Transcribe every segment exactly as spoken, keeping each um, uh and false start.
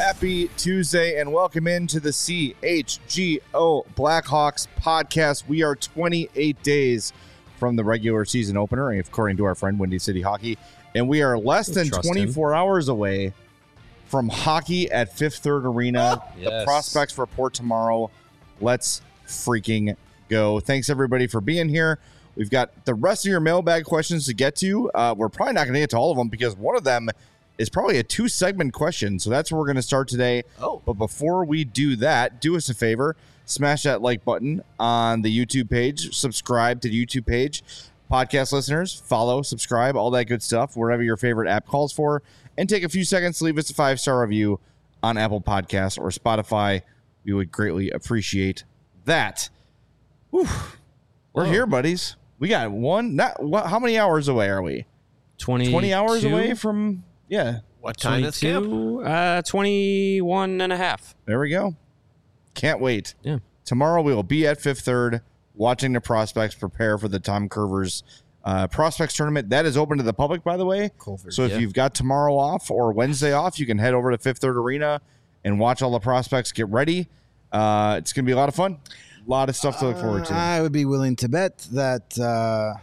Happy Tuesday and welcome into the C H G O Blackhawks podcast. We are twenty-eight days from the regular season opener, according to our friend Windy City Hockey, and we are less than Trust twenty-four him. hours away from hockey at Fifth Third Arena. Oh, the yes. prospects report tomorrow. Let's freaking go. Thanks everybody for being here. We've got the rest of your mailbag questions to get to. Uh, we're probably not going to get to all of them because one of them is probably a two-segment question, so that's where we're going to start today. Oh. But before we do that, do us a favor. Smash that like button on the YouTube page. Subscribe to the YouTube page. Podcast listeners, follow, subscribe, all that good stuff, wherever your favorite app calls for. And take a few seconds to leave us a five-star review on Apple Podcasts or Spotify. We would greatly appreciate that. Whew. We're Whoa. here, buddies. We got one. Not what? How many hours away are we? twenty, twenty hours away from, yeah. What time is camp? twenty-two, uh, twenty-one and a half. There we go. Can't wait. Yeah. Tomorrow we will be at Fifth Third watching the prospects prepare for the Tom Curvers uh, prospects tournament. That is open to the public, by the way. Culver. So if Yeah. you've got tomorrow off or Wednesday off, you can head over to Fifth Third Arena and watch all the prospects get ready. Uh, it's going to be a lot of fun. A lot of stuff to look forward to. Uh, I would be willing to bet that uh,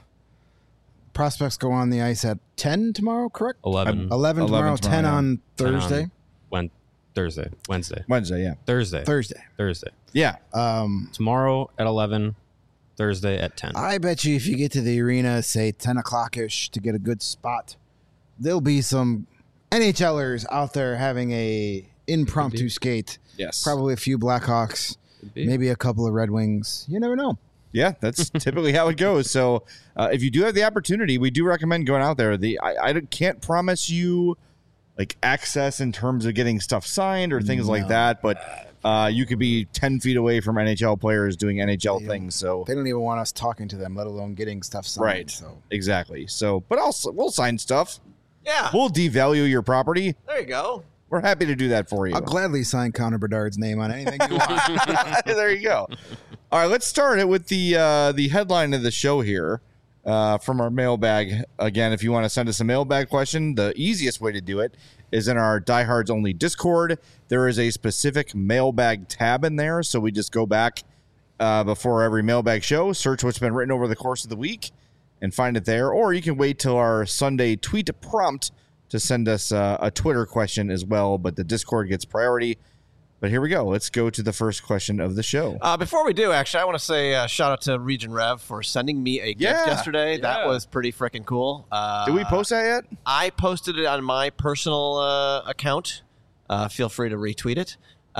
prospects go on the ice at ten tomorrow, correct? eleven. eleven tomorrow, eleven tomorrow, ten yeah. on Thursday. on When, Thursday. Wednesday. Wednesday, yeah. Thursday. Thursday. Thursday. Yeah. Um, Tomorrow at eleven. Thursday at ten. I bet you if you get to the arena, say ten o'clock-ish to get a good spot, there'll be some NHLers out there having a impromptu Maybe. skate. Yes. Probably a few Blackhawks, Could be. maybe a couple of Red Wings. You never know. Yeah, that's typically how it goes. So uh, if you do have the opportunity, we do recommend going out there. The I, I can't promise you like access in terms of getting stuff signed or things like No. that, but uh, you could be ten feet away from N H L players doing N H L things. So They don't even want us talking to them, let alone getting stuff signed. right, So exactly. So, but also we'll sign stuff. Yeah. We'll devalue your property. There you go. We're happy to do that for you. I'll gladly sign Connor Bedard's name on anything you want. There you go. All right, let's start it with the uh, the headline of the show here uh, from our mailbag. Again, if you want to send us a mailbag question, the easiest way to do it is in our Diehards Only Discord. There is a specific mailbag tab in there, so we just go back uh, before every mailbag show, search what's been written over the course of the week, and find it there. Or you can wait till our Sunday tweet prompt to send us uh, a Twitter question as well, but the Discord gets priority. But here we go. Let's go to the first question of the show. Uh, before we do, actually, I want to say uh, shout out to Region Rev for sending me a gift Yeah. yesterday. That Yeah. was pretty freaking cool. Uh, Did we post that yet? I posted it on my personal uh, account. Uh, feel free to retweet it.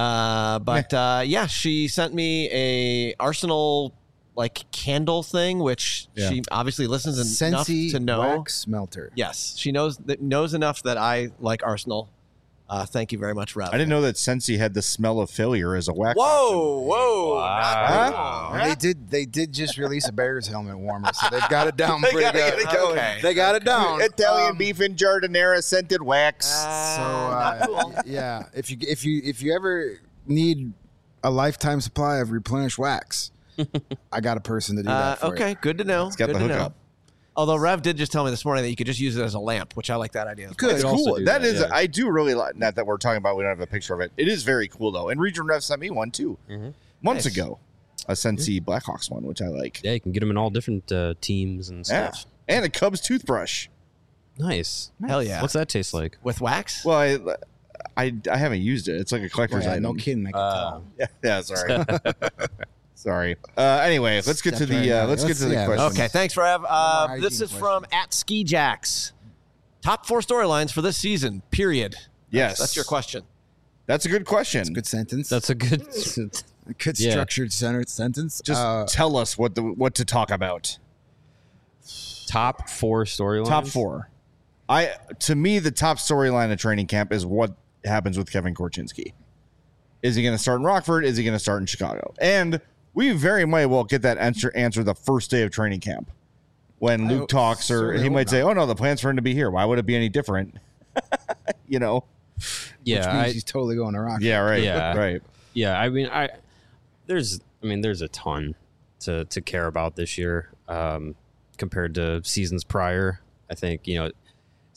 Uh, but uh, yeah, she sent me a Arsenal like candle thing, which Yeah. she obviously listens enough Scentsy to know. wax melter. Yes, she knows that knows enough that I like Arsenal. Uh, thank you very much, Rev. I didn't know that Sensi had the smell of failure as a wax. Whoa, whoa! Wow. not- They did. They did just release a Bears helmet warmer, so they've got it down They pretty gotta good. get it going. Okay. They got it down. Italian Um, beef and jardinera scented wax. So Uh, uh, not cool. yeah, if you if you if you ever need a lifetime supply of replenished wax, I got a person to do Uh, that for okay, you. good to know. It's got good the to hookup. know. Although Rev did just tell me this morning that you could just use it as a lamp, which I like that idea. as well. Could. It's also cool. do That that, is, yeah. I do really like. Not that we're talking about. We don't have a picture of it. It is very cool though. And Region Rev sent me one too, Mhm. months Nice. ago. A Sensi Blackhawks one, which I like. Yeah, you can get them in all different uh, teams and Yeah, stuff. and a Cubs toothbrush. Nice. Hell yeah. What's that taste like? With wax? Well, I, I, I haven't used it. It's like a collector's Yeah, item. no kidding. I can Uh, tell. Yeah, yeah, sorry. Sorry. Uh, anyway, let's get to Stepped right the uh, out. let's, Let's- get to the yeah, questions. Okay, thanks, Rev. Uh, hygiene this is questions. from at Ski Jacks. Top four storylines for this season, period. Yes, That's your question. That's a good question. Good sentence. That's a good. a good yeah. structured center sentence. Just Uh, tell us what the what to talk about. Top four storylines. Top four. I to me the top storyline of training camp is what happens with Kevin Korchinski. Is he going to start in Rockford? Is he going to start in Chicago? And we very might well get that answer answer the first day of training camp when I Luke hope- talks, or certainly he hope might say, not. "Oh no, the plan's for him to be here. Why would it be any different?" you know? Yeah, which means I, he's totally going to rock. Yeah, right. Yeah. right. yeah. I mean, I there's, I mean, there's a ton to to care about this year um, compared to seasons prior. I think you know,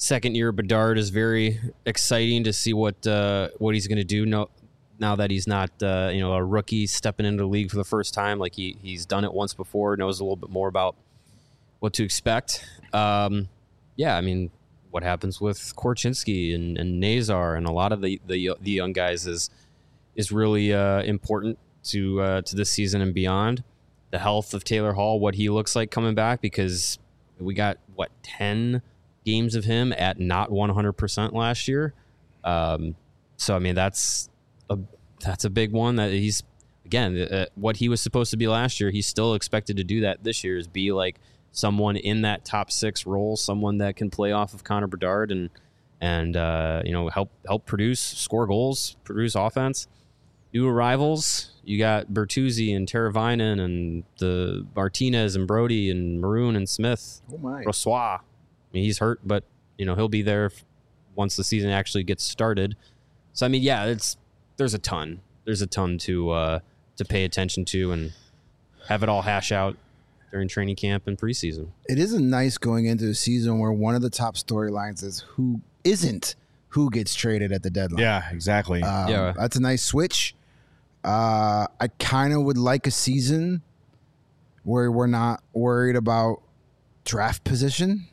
second year Bedard is very exciting to see what uh, what he's going to do. No, now that he's not uh, you know a rookie stepping into the league for the first time, like he he's done it once before, knows a little bit more about what to expect. Um, yeah, I mean, what happens with Korchinski and, and Nazar and a lot of the, the the young guys is is really uh, important to uh, to this season and beyond. The health of Taylor Hall, what he looks like coming back, because we got what ten games of him at not one hundred percent last year. Um, so I mean that's a that's a big one that he's again uh, what he was supposed to be last year. He's still expected to do that this year, is be like someone in that top six role, someone that can play off of Connor Bedard and and uh, you know help help produce, score goals, produce offense. New arrivals, you got Bertuzzi and Teravainen and the Martinez and Brody and Maroon and Smith. Oh my! Brossoit. I mean, he's hurt, but you know he'll be there once the season actually gets started. So I mean, yeah, it's there's a ton. There's a ton to uh, to pay attention to and have it all hash out during training camp and preseason. It isn't nice going into a season where one of the top storylines is who isn't who gets traded at the deadline. Yeah, exactly. Um, Yeah. That's a nice switch. Uh, I kind of would like a season where we're not worried about draft position.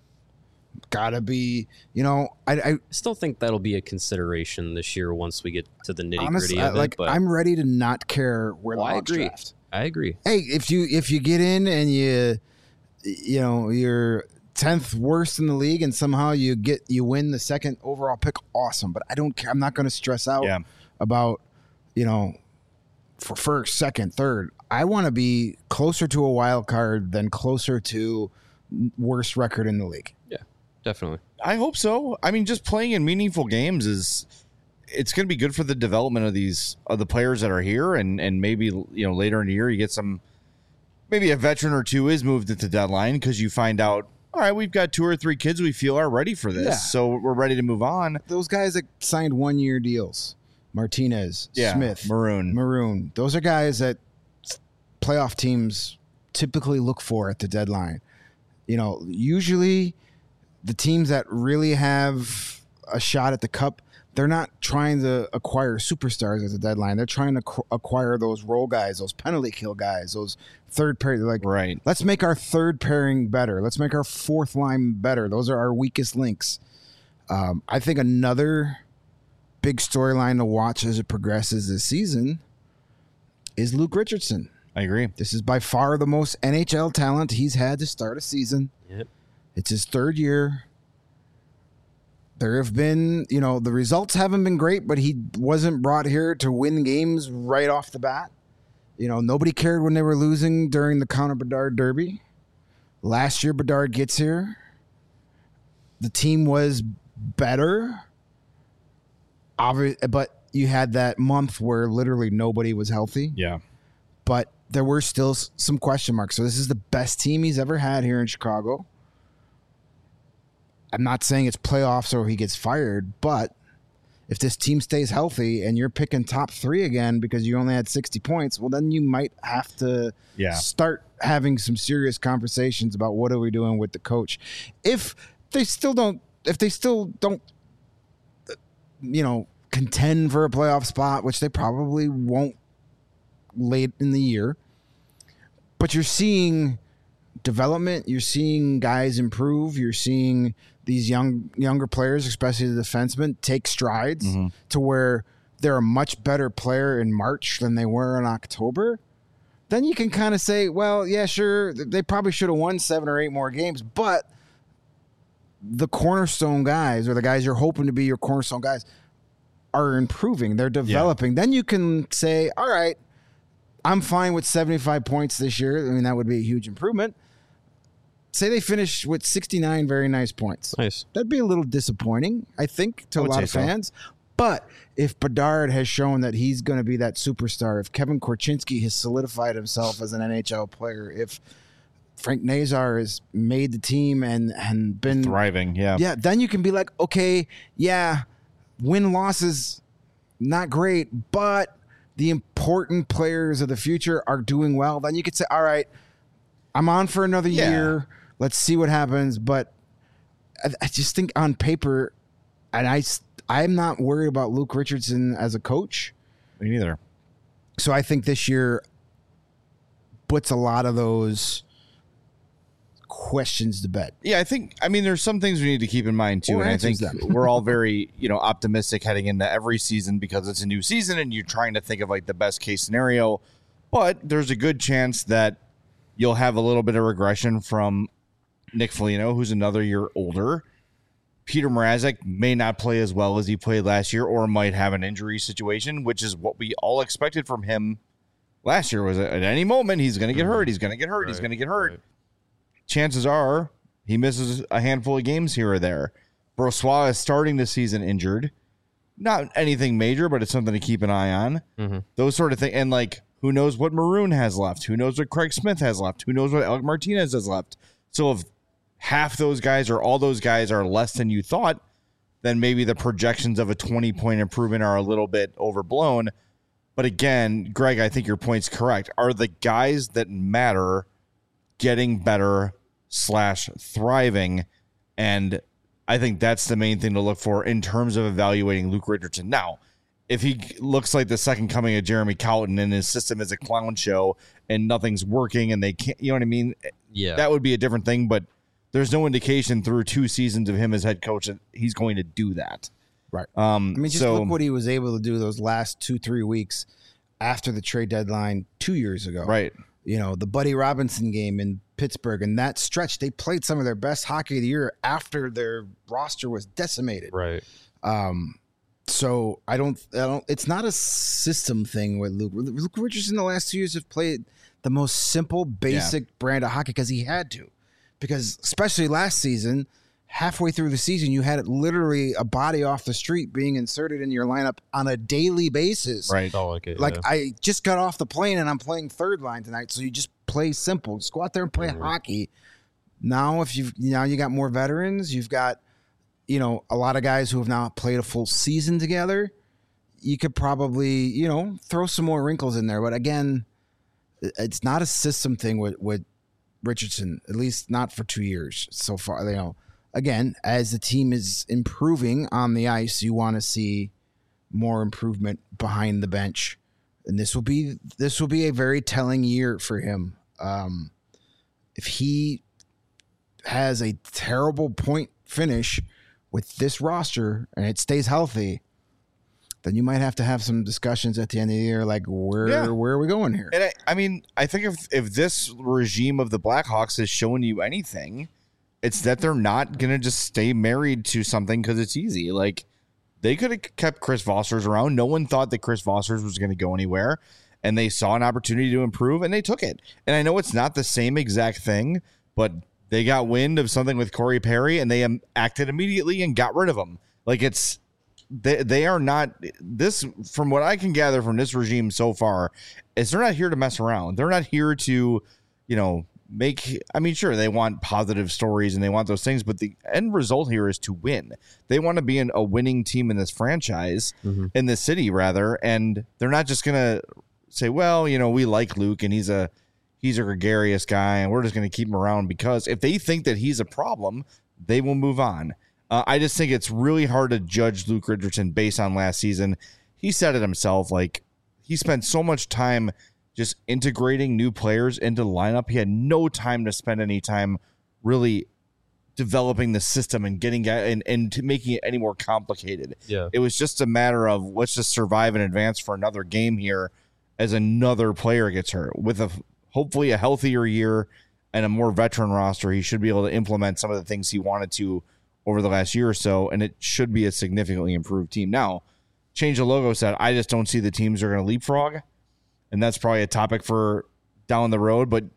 Gotta be, you know, I, I I still think that'll be a consideration this year once we get to the nitty honestly, gritty I, of it. like, But I'm ready to not care where Well, the I Hawks agree. draft. I agree. Hey, if you if you get in and you you know you're tenth worst in the league and somehow you get you win the second overall pick, awesome. But I don't care. I'm not going to stress out Yeah. about you know for first, second, third. I want to be closer to a wild card than closer to worst record in the league. Yeah, definitely. I hope so. I mean, just playing in meaningful games is it's going to be good for the development of these of the players that are here, and and maybe you know later in the year you get some, maybe a veteran or two is moved at the deadline because you find out, all right, we've got two or three kids we feel are ready for this, Yeah. so we're ready to move on. Those guys that signed one year deals, Martinez, Yeah, Smith, Maroon. Maroon. Those are guys that playoff teams typically look for at the deadline. You know, usually the teams that really have a shot at the cup, they're not trying to acquire superstars at the deadline. They're trying to qu- acquire those role guys, those penalty kill guys, those third pair. Like, Right. let's make our third pairing better. Let's make our fourth line better. Those are our weakest links. Um, I think another big storyline to watch as it progresses this season is Luke Richardson. I agree. This is by far the most N H L talent he's had to start a season. Yep. It's his third year. There have been, you know, the results haven't been great, but he wasn't brought here to win games right off the bat. You know, nobody cared when they were losing during the Connor Bedard Derby. Last year, Bedard gets here. The team was better. Obvi- but you had that month where literally nobody was healthy. Yeah. But there were still s- some question marks. So this is the best team he's ever had here in Chicago. I'm not saying it's playoffs or he gets fired, but if this team stays healthy and you're picking top three again because you only had sixty points, well, then you might have to Yeah. start having some serious conversations about what are we doing with the coach. If they still don't, if they still don't, uh, you know, contend for a playoff spot, which they probably won't late in the year, but you're seeing development, you're seeing guys improve, you're seeing these young younger players, especially the defensemen, take strides to where they're a much better player in March than they were in October. Then you can kind of say, well, yeah, sure, they probably should have won seven or eight more games, but the cornerstone guys, or the guys you're hoping to be your cornerstone guys, are improving. They're developing. Then you can say, all right, I'm fine with seventy-five points this year. I mean, that would be a huge improvement. Say they finish with sixty-nine very nice points. Nice. That'd be a little disappointing, I think, to I a would lot say of so. fans. But if Bedard has shown that he's going to be that superstar, if Kevin Korchinski has solidified himself as an N H L player, if Frank Nazar has made the team and, and been Thriving. Yeah. yeah, then you can be like, okay, yeah, win losses, not great, but the important players of the future are doing well. Then you could say, all right, I'm on for another Yeah. year. Let's see what happens. But I, I just think on paper, and I, I'm not worried about Luke Richardson as a coach. Me neither. So I think this year puts a lot of those questions to bed. Yeah, I think, I mean, there's some things we need to keep in mind too. Or and I think answers them. we're all very, you know, optimistic heading into every season because it's a new season and you're trying to think of like the best case scenario. But there's a good chance that you'll have a little bit of regression from Nick Foligno, who's another year older. Peter Mrazek may not play as well as he played last year or might have an injury situation, which is what we all expected from him last year. Was at any moment he's going to get hurt. He's going to get hurt. Right, he's going to get hurt. Right. Chances are he misses a handful of games here or there. Brossoit is starting the season injured. Not anything major, but it's something to keep an eye on. Mm-hmm. Those sort of things. And like, who knows what Maroon has left? Who knows what Craig Smith has left? Who knows what Alec Martinez has left? So if half those guys or all those guys are less than you thought, then maybe the projections of a twenty-point improvement are a little bit overblown. But again, Greg, I think your point's correct. Are the guys that matter getting better slash thriving? And I think that's the main thing to look for in terms of evaluating Luke Richardson. Now, if he looks like the second coming of Jeremy Colton and his system is a clown show and nothing's working and they can't, you know what I mean? Yeah. That would be a different thing, but there's no indication through two seasons of him as head coach that he's going to do that. Right. Um, I mean, just so, look what he was able to do those last two, three weeks after the trade deadline two years ago. Right. You know, the Buddy Robinson game in Pittsburgh and that stretch, they played some of their best hockey of the year after their roster was decimated. Right. Um, so I don't, I don't, it's not a system thing with Luke. Luke Richardson the last two years have played the most simple, basic yeah. brand of hockey because he had to. Because especially last season, halfway through the season, you had literally a body off the street being inserted in your lineup on a daily basis. Right. Oh, like it, like yeah. I just got off the plane and I'm playing third line tonight. So you just play simple. Just go out there and play mm-hmm. hockey. Now, if you've now you got more veterans, you've got, you know, a lot of guys who have now played a full season together. You could probably, you know, throw some more wrinkles in there. But again, it's not a system thing with, with Richardson, at least not for two years so far. You know, again, as the team is improving on the ice, you want to see more improvement behind the bench, and this will be this will be a very telling year for him. Um, if he has a terrible point finish with this roster and it stays healthy, then you might have to have some discussions at the end of the year, like where yeah. where are we going here? And I, I mean, I think if if this regime of the Blackhawks has shown you anything, it's that they're not going to just stay married to something because it's easy. Like, they could have kept Chris Vossers around. No one thought that Chris Vossers was going to go anywhere, and they saw an opportunity to improve, and they took it. And I know it's not the same exact thing, but they got wind of something with Corey Perry, and they um, acted immediately and got rid of him. Like, it's they they are not this. From what I can gather from this regime so far, is they're not here to mess around. They're not here to, you know, make. I mean, sure, they want positive stories and they want those things, but the end result here is to win. They want to be in a winning team in this franchise, mm-hmm. in this city, rather, and they're not just gonna say, well, you know, we like Luke and he's a he's a gregarious guy and we're just going to keep him around, because if they think that he's a problem, they will move on. Uh, I just think it's really hard to judge Luke Richardson based on last season. He said it himself. Like, he spent so much time just integrating new players into the lineup. He had no time to spend any time really developing the system and getting and, and to making it any more complicated. Yeah. It was just a matter of let's just survive and advance for another game here as another player gets hurt. With a hopefully a healthier year and a more veteran roster, he should be able to implement some of the things he wanted to over the last year or so, and it should be a significantly improved team. Now, Change the Logo said, I just don't see the teams are going to leapfrog, and that's probably a topic for down the road, but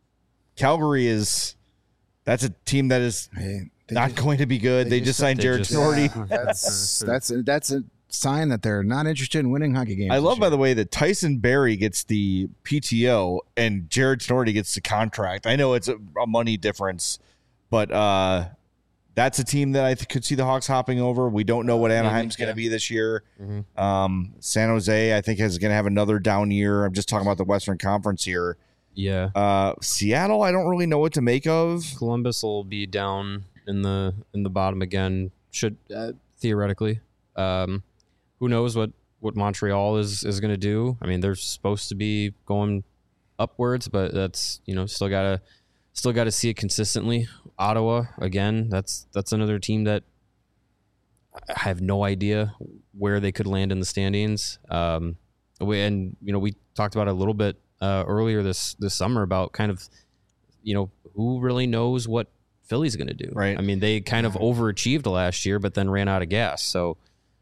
Calgary is that's a team that is hey, not just, going to be good. They, they just, just signed Jared Tinordi. Yeah, that's that's a, that's a sign that they're not interested in winning hockey games. I love, by the way, that Tyson Barrie gets the P T O and Jared Tinordi gets the contract. I know it's a, a money difference, but uh, that's a team that I th- could see the Hawks hopping over. We don't know what Anaheim's going to be this year. Mm-hmm. Um, San Jose, I think, is going to have another down year. I'm just talking about the Western Conference here. Yeah. Uh, Seattle, I don't really know what to make of. Columbus will be down in the in the bottom again. Should uh, theoretically, um, who knows what, what Montreal is is going to do? I mean, they're supposed to be going upwards, but that's you know still gotta still gotta see it consistently. Ottawa again. That's that's another team that I have no idea where they could land in the standings. Um, we, and you know we talked about it a little bit uh, earlier this this summer about kind of you know who really knows what Philly's going to do. Right. I mean, they kind of overachieved last year, but then ran out of gas. So,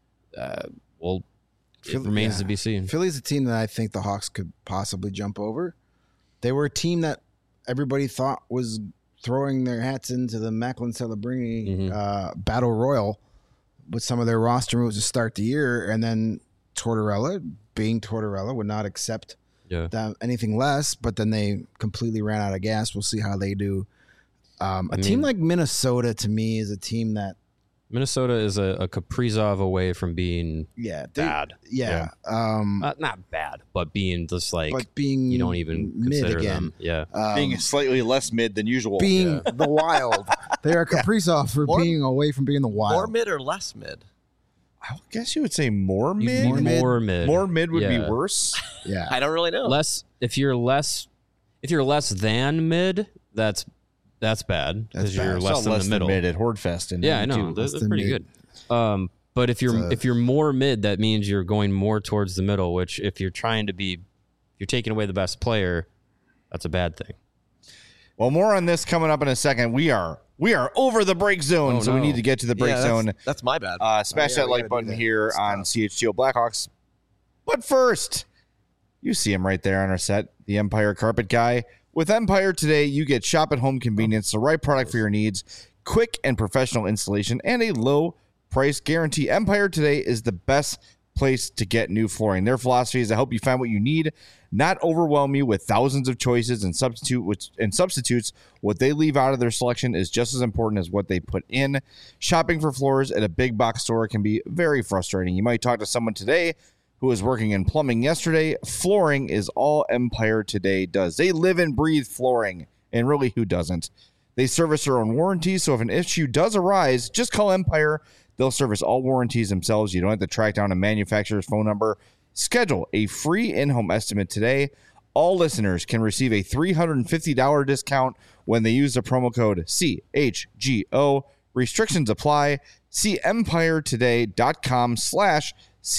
uh, well, it Philly- remains yeah. to be seen. Philly's a team that I think the Hawks could possibly jump over. They were a team that everybody thought was throwing their hats into the Macklin Celebrini Mhm. uh, battle royal with some of their roster moves to start the year, and then Tortorella, being Tortorella, would not accept Yeah. that, anything less. But then they completely ran out of gas. We'll see how they do. Um, a I team mean- like Minnesota, to me, is a team that, Minnesota is a, a Kaprizov away from being yeah, they- bad. yeah, um, Uh, not bad, but being just like but being you don't even mid consider again. them. Yeah. Um, Being slightly less mid than usual. being the Wild. They are Kaprizov for More- being away from being the Wild. More mid or less mid? I guess you would say more You'd mid. be More mid. more mid. More mid would Yeah. be worse. Yeah. I don't really know. Less if you're less if you're less than mid, that's that's bad That's because bad. you're It's less Saw than the middle. mid at Hordfest. In Yeah, I know. ninety-two. They're, Less they're than pretty mid. good. Um, but if you're It's a- if you're more mid, that means you're going more towards the middle. Which if you're trying to be, if you're taking away the best player, that's a bad thing. Well, more on this coming up in a second. We are we are over the break zone, Oh, so we no. need to get to the break Yeah, that's, zone. that's my bad. Uh, smash Oh, yeah, that we like gotta do button that. here Stop. on C H G O Blackhawks. But first, you see him right there on our set, the Empire Carpet Guy. With Empire today, you get shop at home convenience, the right product for your needs, quick and professional installation, and a low price guarantee. Empire today is the best place to get new flooring. Their philosophy is to help you find what you need, not overwhelm you with thousands of choices and substitute which, and substitutes. What they leave out of their selection is just as important as what they put in. Shopping for floors at a big box store can be very frustrating. You might talk to someone today who was working in plumbing yesterday. Flooring is all Empire today does. They live and breathe flooring, and really, who doesn't? They service their own warranties, so if an issue does arise, just call Empire. They'll service all warranties themselves. You don't have to track down a manufacturer's phone number. Schedule a free in-home estimate today. All listeners can receive a three hundred fifty dollars discount when they use the promo code C H G O. Restrictions apply. See empiretoday.com slash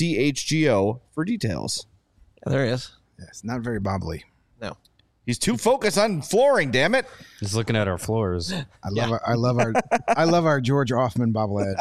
CHGO for details. Yeah, there he is. Yes, not very bobbly. No. He's too focused on flooring, damn it. Just looking at our floors. I love our, I love our I love our George Offman bobblehead.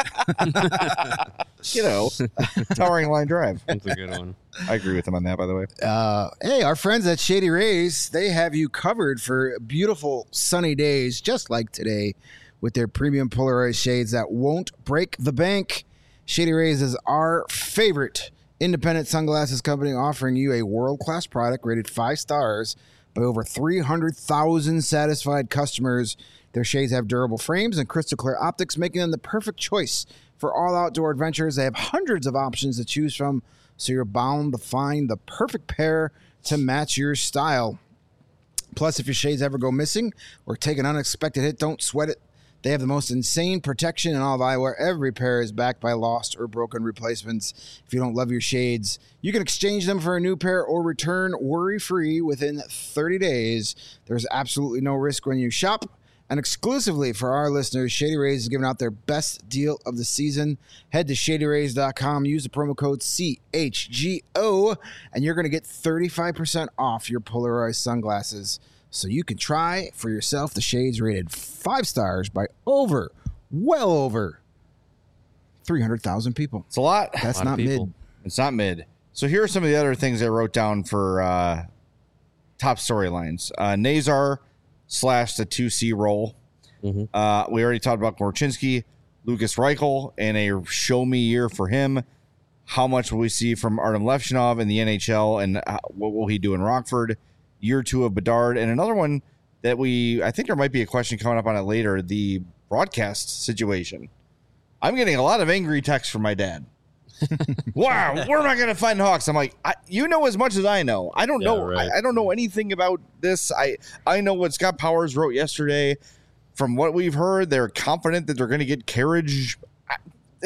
You know, Towering Line Drive. That's a good one. I agree with him on that, by the way. Uh, hey, our friends at Shady Rays, they have you covered for beautiful sunny days just like today with their premium polarized shades that won't break the bank. Shady Rays is our favorite independent sunglasses company, offering you a world-class product rated five stars by over three hundred thousand satisfied customers. Their shades have durable frames and crystal clear optics, making them the perfect choice for all outdoor adventures. They have hundreds of options to choose from, so you're bound to find the perfect pair to match your style. Plus, if your shades ever go missing or take an unexpected hit, don't sweat it. They have the most insane protection in all of eyewear. Every pair is backed by lost or broken replacements. If you don't love your shades, you can exchange them for a new pair or return worry-free within thirty days. There's absolutely no risk when you shop. And exclusively for our listeners, Shady Rays is giving out their best deal of the season. Head to shady rays dot com, use the promo code C H G O, and you're going to get thirty-five percent off your polarized sunglasses. So you can try for yourself the shades rated five stars by over, well over three hundred thousand people. It's a lot. That's lot of not people. mid. It's not mid. So here are some of the other things I wrote down for uh, top storylines. Uh, Nazar slash the two C role. Mhm. Uh, we already talked about Korchinski, Lucas Reichel, and a show me year for him. How much will we see from Artem Levchinov in the N H L, and uh, what will he do in Rockford? Year two of Bedard, and another one that we, I think there might be a question coming up on it later, the broadcast situation. I'm getting a lot of angry texts from my dad. Wow, where am I going to find Hawks? I'm like, I, you know as much as I know. I don't Yeah, know. right. I, I don't know anything about this. I I know what Scott Powers wrote yesterday. from what we've heard, they're confident that they're going to get carriage. I,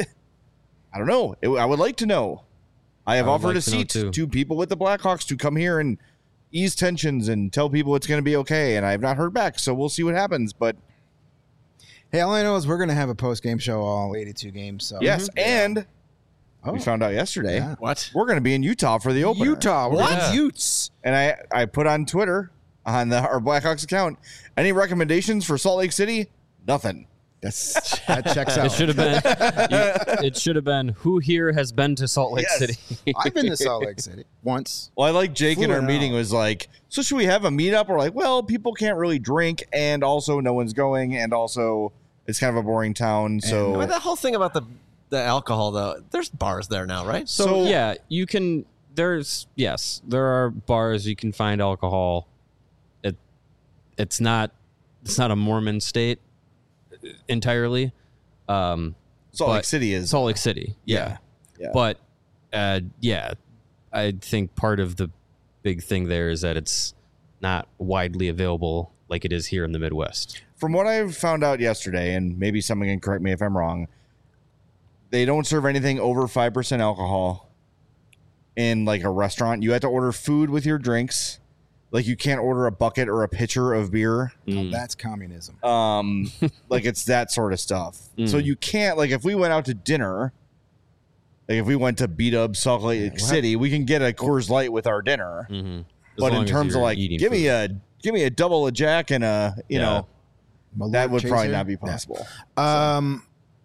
I don't know. It, I would like to know. I have I would offered like a to know seat too. to people with the Blackhawks to come here and ease tensions and tell people it's going to be okay. And I have not heard back, so we'll see what happens. But Hey, all I know is we're going to have a post game show all eighty-two games. So yes, and Oh. we found out yesterday Yeah. What? we're going to be in Utah for the opener. Utah, we're What? going Utes. And I, I put on Twitter on the, our Blackhawks account, any recommendations for Salt Lake City? Nothing. That's that checks out. It should have been. you- it should have been. Who here has been to Salt Lake Yes. City? I've been to Salt Lake City once. Well, I like Jake in Flew our it meeting out. was like, so should we have a meetup? We're like, well, people can't really drink, and also no one's going, and also it's kind of a boring town. So I mean, that whole thing about the the alcohol, though, there's bars there now, right? So, So- yeah, you can. There's yes, there are bars you can find alcohol. It it's not it's not a Mormon state entirely. Um, Salt but Lake City is. Salt Lake City, yeah, Yeah. but uh, yeah, I think part of the big thing there is that it's not widely available like it is here in the Midwest. From what I found out yesterday, and maybe someone can correct me if I'm wrong, they don't serve anything over five percent alcohol in like a restaurant. You have to order food with your drinks. Like you can't order a bucket or a pitcher of beer. Mm. That's communism. Um, like it's that sort of stuff. Mm. So you can't, like if we went out to dinner, like if we went to beat up Salt Lake what? City, we can get a Coors Light with our dinner. Mm-hmm. But in terms of like, give me a give me a double a Jack and a you Yeah. know Malort that would probably chaser? not be Yeah. possible. Um,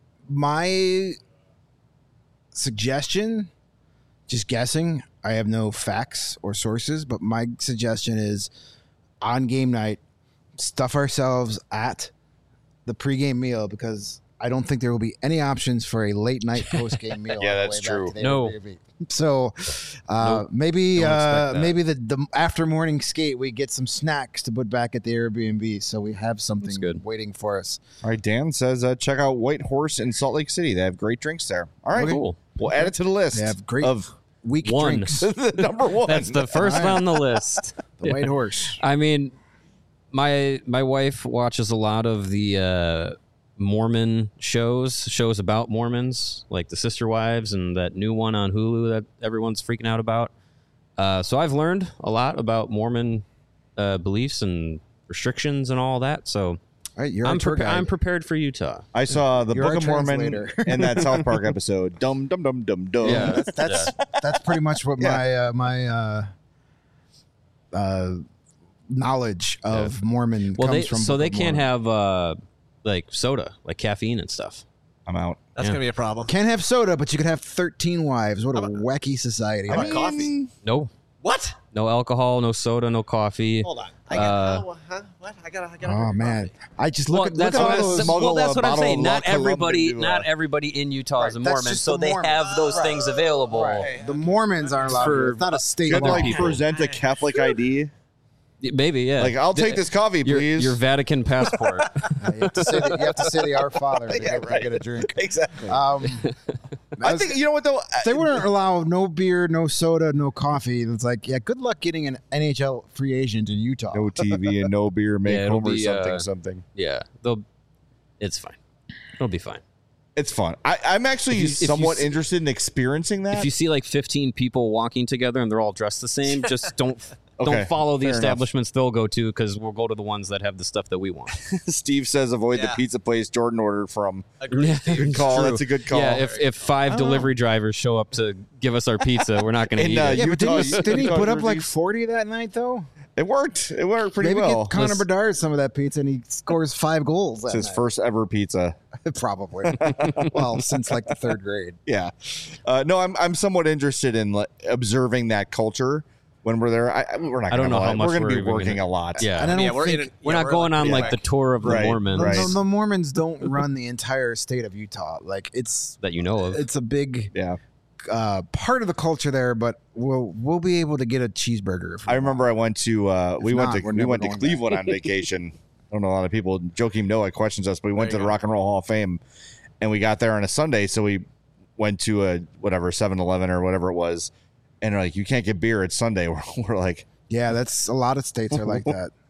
my suggestion, just guessing, I have no facts or sources, but my suggestion is on game night, stuff ourselves at the pregame meal because I don't think there will be any options for a late night post game meal. Yeah, on the that's way back true. to the No. Airbnb. So uh, Nope. maybe Don't expect uh, that. maybe the, the after morning skate we get some snacks to put back at the Airbnb so we have something good. waiting for us. All right, Dan says uh, check out White Horse in Salt Lake City. They have great drinks there. All right, Okay. Cool. we'll add it to the list. They have great of weak One. drinks. the number one. That's the first All right. on the list. The White Horse. I mean, my my wife watches a lot of the uh, Mormon shows, shows about Mormons, like the Sister Wives and that new one on Hulu that everyone's freaking out about. Uh, so I've learned a lot about Mormon uh, beliefs and restrictions and all that. So All right, you're I'm a tour prepa- guide. I'm prepared for Utah. I saw the You're Book our of Mormon translator. in that South Park episode. Dum dum dum dum dum. Yeah. that's that's pretty much what Yeah. my uh, my uh, uh, knowledge of Mormon Well, comes they from. so Book they of can't Mormon. have uh, like soda, like caffeine and stuff. I'm out. That's Yeah. gonna be a problem. Can't have soda, but you could have thirteen wives. What a How about- wacky society! how about coffee? No, What? no alcohol, no soda, no coffee. Hold on. I got. Uh, oh, huh? What? I got. I got. Oh man, I just Well, look at that's look at what, all I, those. smuggle well, that's a what I'm bottle saying. of Not La Colombe everybody, into not a- everybody in Utah is a Right, that's Mormon, just so the they Mormon. have those Right. things available. Right. The Mormons aren't allowed. For- to. It's not a state You have to law. like people. present a Catholic I D. Maybe, yeah. Like I'll take The- this coffee, your, please. your Vatican passport. Yeah, you have to say the, you have to say the Our Father to, Yeah, get, to right. get a drink. exactly. Um, I think you know what though. they wouldn't allow no beer, no soda, no coffee. It's like, yeah, good luck getting an N H L free agent in Utah. No T V and no beer make Yeah, it'll Homer be, something uh, something. yeah, they'll. It's fine. It'll be fine. It's fun. I, I'm actually If you- if you somewhat see- interested in experiencing that. If you see like fifteen people walking together and they're all dressed the same, just don't Okay, don't follow the fair enough. establishments they'll go to because we'll go to the ones that have the stuff that we want. Steve says avoid the Yeah. pizza place Jordan ordered from. Agreed. Good call. True. That's a good call. Yeah, if if five I don't delivery drivers show up to give us our pizza, we're not going to And, eat uh, it. Yeah, but didn't Utah- he, didn't he Utah put up like jerseys. forty that night though? It worked. It worked pretty Maybe well. get Connor Let's- Bedard some of that pizza and he scores five goals. That It's his night. first ever pizza. Probably. Well, since like the third grade. Yeah. Uh, no, I'm I'm somewhat interested in like, observing that culture when we're there. I, I- we're not. I gonna don't know have a how lot- much We're going we're to be even working gonna- a lot. Yeah, And I don't yeah, we're think in it- we're yeah, not we're going on like like the tour of the Right, Mormons right. The, the Mormons don't run the entire state of Utah. Like it's that you know of. it's a big Yeah. uh, part of the culture there, but we'll we'll be able to get a cheeseburger. If we I remember I went to uh, we went not, to we're we never went to going Cleveland on vacation. I don't know a lot of people. Joakim Noah questions us, but we went to There the you go. Rock and Roll Hall of Fame, and we got there on a Sunday, so we went to a whatever seven eleven or whatever it was, and they're like, you can't get beer. It's Sunday. We're, we're like, Yeah, that's a lot of states are like that.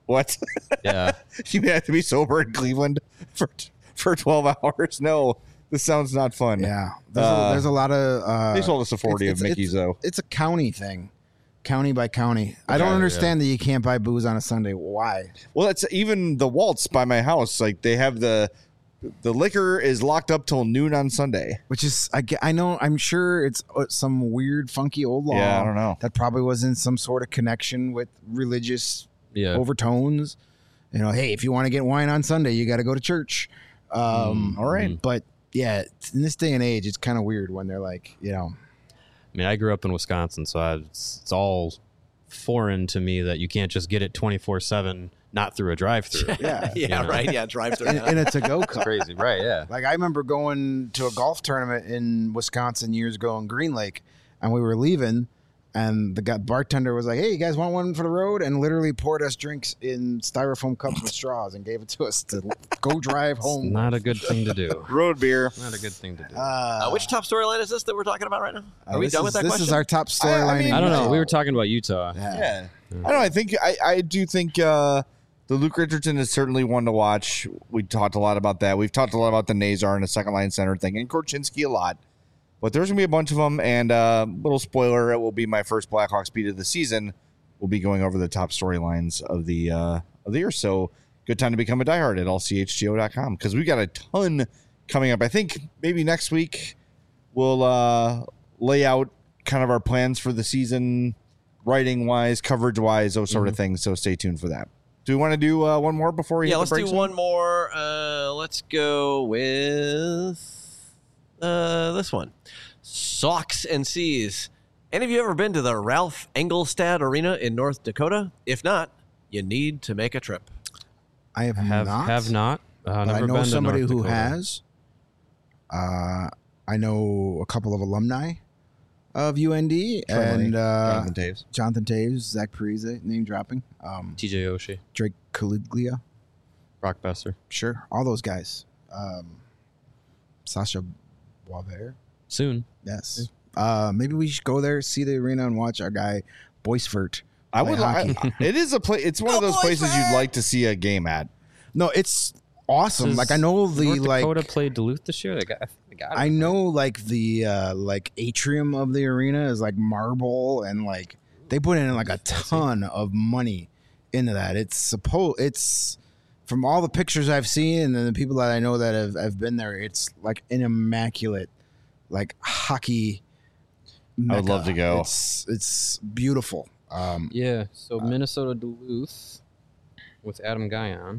What? Yeah. You have to be sober in Cleveland for for twelve hours? No, this sounds not fun. Yeah, there's, Uh, a, there's a lot of. Uh, They sold us a forty it's- of it's- Mickey's it's, though. It's a county thing, county by county. I don't Okay, understand that you can't buy booze on a Sunday. Why? Well, it's even the Waltz by my house. Like they have the the liquor is locked up till noon on Sunday. Which is, I, ge- I know, I'm sure it's uh, some weird, funky old law. Yeah, I don't know. That probably was in some sort of connection with religious Yeah. overtones. You know, hey, if you want to get wine on Sunday, you got to go to church. Um, all right. But yeah, in this day and age, it's kind of weird when they're like, you know, I mean, I grew up in Wisconsin, so I, it's, it's all foreign to me that you can't just get it twenty-four seven, not through a drive-through. yeah, Yeah, know. right. Yeah, drive through. in, in a to-go cup. Crazy, right? Yeah. Like I remember going to a golf tournament in Wisconsin years ago in Green Lake, and we were leaving, and the guy, bartender was like, "Hey, you guys want one for the road?" And literally poured us drinks in styrofoam cups with straws and gave it to us to go drive home. Not a good thing to do. Road beer. Not a good thing to do. Uh, Uh, which top storyline is this that we're talking about right now? Are uh, we this done is, with that This question? is our top storyline. I mean- in I don't know. Utah. We were talking about Utah. Yeah. Yeah. I don't know. I think I, I do think uh, the Luke Richardson is certainly one to watch. We talked a lot about that. We've talked a lot about the Nazar and the second line center thing and Korchinski a lot. But there's going to be a bunch of them. And uh, little spoiler, it will be my first Blackhawks beat of the season. We'll be going over the top storylines of the uh, of the year. So good time to become a diehard at all c h g o dot com because we've got a ton coming up. I think maybe next week we'll uh, lay out kind of our plans for the season, writing wise, coverage wise, those sort of things. So stay tuned for that. Do we want to do uh, one more before we yeah, hit let's the do break one zone? more. Uh, let's go with uh, this one. Socks and Seas. Any of you ever been to the Ralph Engelstad Arena in North Dakota? If not, you need to make a trip. I have, Have not. have not. Uh, But I never know been to somebody North who Dakota. has. Uh, I know a couple of alumni of U N D Friendly. and uh, Jonathan Taves. Jonathan Taves, Zach Parise, name dropping, um, T J Oshie, Drake Caliglia, Brock Besser. sure, all those guys. Um, Sasha Boisvert, Soon. yes. Uh, maybe we should go there, see the arena, and watch our guy Boisvert. I play would. hockey. I, it is a place. It's one of those places you'd like to see a game at. No, it's awesome. Does Like I know the North like. Dakota played Duluth this year. They got. They got I know like the uh like atrium of the arena is like marble and like they put in like a ton of money into that. It's supposed it's from all the pictures I've seen and then the people that I know that have, have been there, it's like an immaculate like hockey I would mecca. love to go. It's it's beautiful. Um Yeah. So Minnesota Duluth with Adam Guyon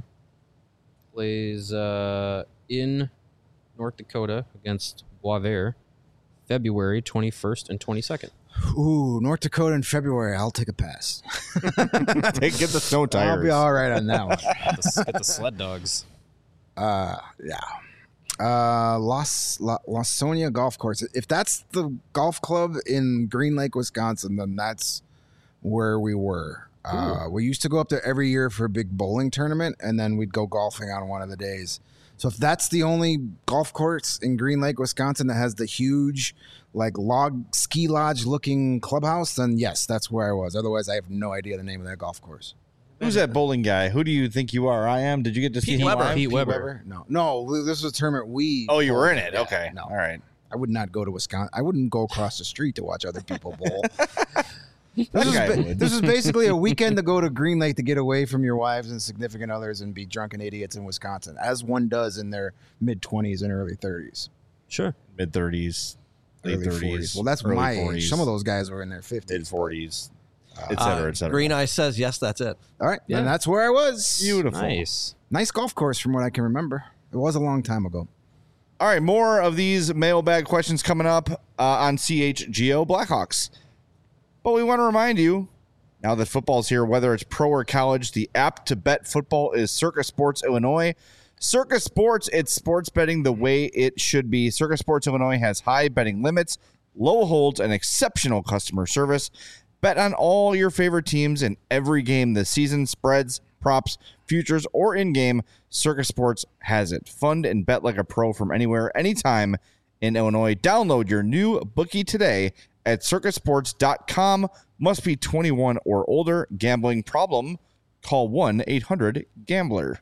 plays uh, in North Dakota against Boisvert, February twenty-first and twenty-second. ooh, North Dakota in February, I'll take a pass. Take get the snow tires. I'll be all right on that one. Get the, get the sled dogs. Uh, yeah. Uh, Los La, Lawsonia Golf Course. If that's the golf club in Green Lake, Wisconsin, then that's where we were. Uh, we used to go up there every year for a big bowling tournament, and then we'd go golfing on one of the days. So if that's the only golf course in Green Lake, Wisconsin that has the huge, like log ski lodge looking clubhouse, then yes, that's where I was. Otherwise, I have no idea the name of that golf course. Who's that bowling guy? Who do you think you are? I am. Did you get to see Pete him Weber. live? Pete Weber. No, no, this was a tournament we. Oh, you were in it. Yeah, Okay. no. All right. I would not go to Wisconsin. I wouldn't go across the street to watch other people bowl. That This is, guy ba- would. this is basically a weekend to go to Green Lake to get away from your wives and significant others and be drunken idiots in Wisconsin, as one does in their mid twenties and early thirties, Sure. Mid thirties, late early thirties. forties. Well, that's early my forties, age. Some of those guys were in their mid fifties. forties, et Uh, cetera, et cetera. Green Eye says yes. That's it. All right, Yeah. and that's where I was. Beautiful. Nice. Nice golf course from what I can remember. It was a long time ago. All right, more of these mailbag questions coming up uh, on C H G O Blackhawks. But we want to remind you, now that football's here, whether it's pro or college, the app to bet football is Circa Sports Illinois. Circa Sports, it's sports betting the way it should be. Circa Sports Illinois has high betting limits, low holds, and exceptional customer service. Bet on all your favorite teams in every game this season, spreads, props, futures, or in-game. Circa Sports has it. Fund and bet like a pro from anywhere, anytime in Illinois. Download your new bookie today at circa sports dot com. Must be twenty-one or older. Gambling problem? Call one eight hundred gambler.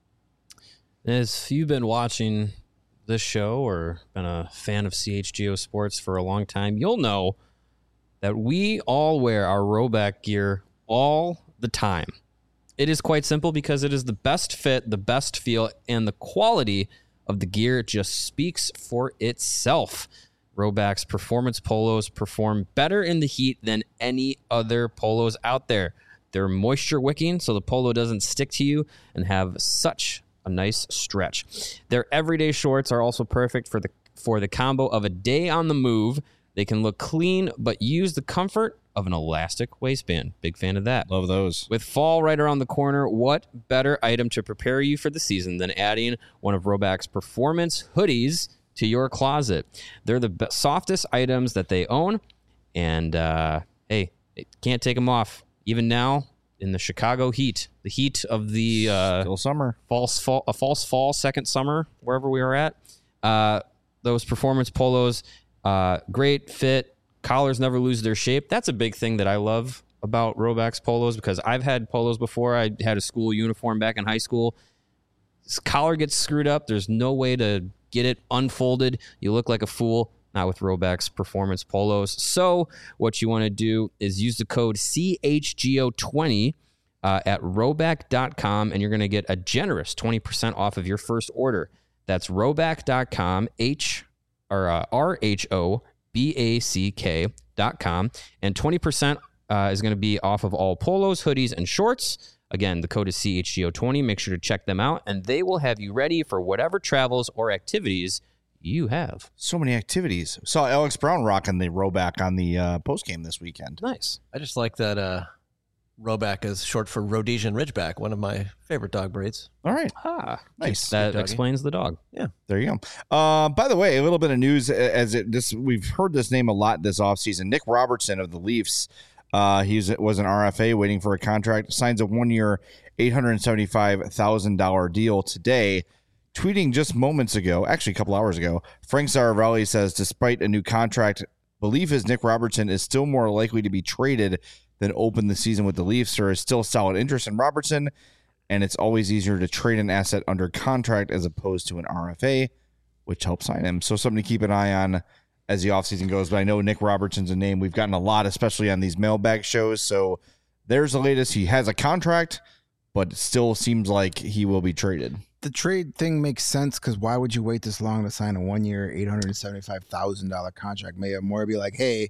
As you've been watching this show or been a fan of C H G O Sports for a long time, you'll know that we all wear our Rhoback gear all the time. It is quite simple because it is the best fit, the best feel, and the quality of the gear just speaks for itself. Rhoback's performance polos perform better in the heat than any other polos out there. They're moisture wicking, so the polo doesn't stick to you, and have such a nice stretch. Their everyday shorts are also perfect for the for the combo of a day on the move. They can look clean, but use the comfort of an elastic waistband. Big fan of that. Love those. With fall right around the corner, what better item to prepare you for the season than adding one of Rhoback's performance hoodies to your closet? They're the be- softest items that they own, and uh, hey, they can't take them off. Even now, in the Chicago heat, the heat of the uh, Still summer. false fall, a false fall, second summer, wherever we are at. Uh, those performance polos, uh, great fit. Collars never lose their shape. That's a big thing that I love about Rhoback's polos, because I've had polos before. I had a school uniform back in high school. This collar gets screwed up. There's no way to get it unfolded. You look like a fool. Not with Rhoback's performance polos. So what you want to do is use the code C H G O twenty uh, at rhoback dot com, and you're going to get a generous twenty percent off of your first order. That's rhoback dot com, H or uh, R H O B A C K dot com, and twenty percent uh, is going to be off of all polos, hoodies, and shorts. Again, the code is C H G O twenty. Make sure to check them out, and they will have you ready for whatever travels or activities you have. So many activities. Saw Alex Brown rocking the Rhoback on the uh, post game this weekend. Nice. I just like that uh, Rhoback is short for Rhodesian Ridgeback, one of my favorite dog breeds. All right. Ah, Nice. that Good doggy. explains the dog. There you go. Uh, by the way, a little bit of news as it this we've heard this name a lot this offseason. Nick Robertson of the Leafs. Uh, he was an R F A waiting for a contract. Signs a one-year, eight hundred seventy-five thousand dollars deal today. Tweeting just moments ago, actually a couple hours ago, Frank Saravalli says, despite a new contract, belief is Nick Robertson is still more likely to be traded than open the season with the Leafs. There is still solid interest in Robertson, and it's always easier to trade an asset under contract as opposed to an R F A, which helps sign him. So something to keep an eye on as the offseason goes. But I know Nick Robertson's a name we've gotten a lot, especially on these mailbag shows. So there's the latest. He has a contract, but it still seems like he will be traded. The trade thing makes sense because why would you wait this long to sign a one-year, eight hundred seventy-five thousand dollars contract? May have more be like, hey,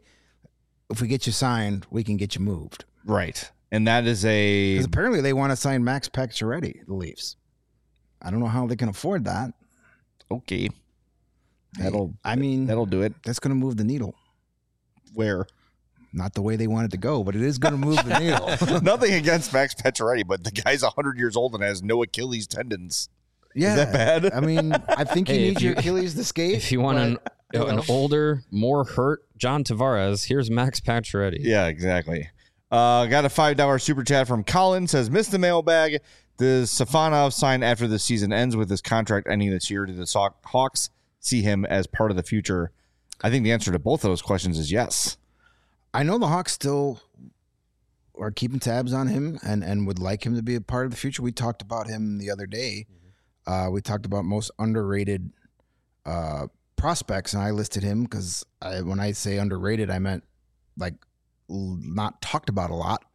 if we get you signed, we can get you moved. Right. And that is a... Because apparently they want to sign Max Pacioretty, the Leafs. I don't know how they can afford that. Okay. That'll, I mean, that'll do it. that's going to move the needle. Where? Not the way they want it to go, but it is going to move the needle. Nothing against Max Pacioretty, but the guy's one hundred years old and has no Achilles tendons. Yeah. Is that bad? I mean, I think you Hey, need if your you- Achilles to skate. If you want an, but, you an know. older, more hurt John Tavares, here's Max Pacioretty. Yeah, exactly. Uh, got a five dollars super chat from Colin. Says, missed the mailbag. Does Safanov sign after the season ends with his contract ending this year? Do the Sox- Hawks see him as part of the future? I think the answer to both of those questions is yes. I know the Hawks still are keeping tabs on him and, and would like him to be a part of the future. We talked about him the other day. Uh, we talked about most underrated uh, prospects, and I listed him because I, when I say underrated, I meant like l- not talked about a lot.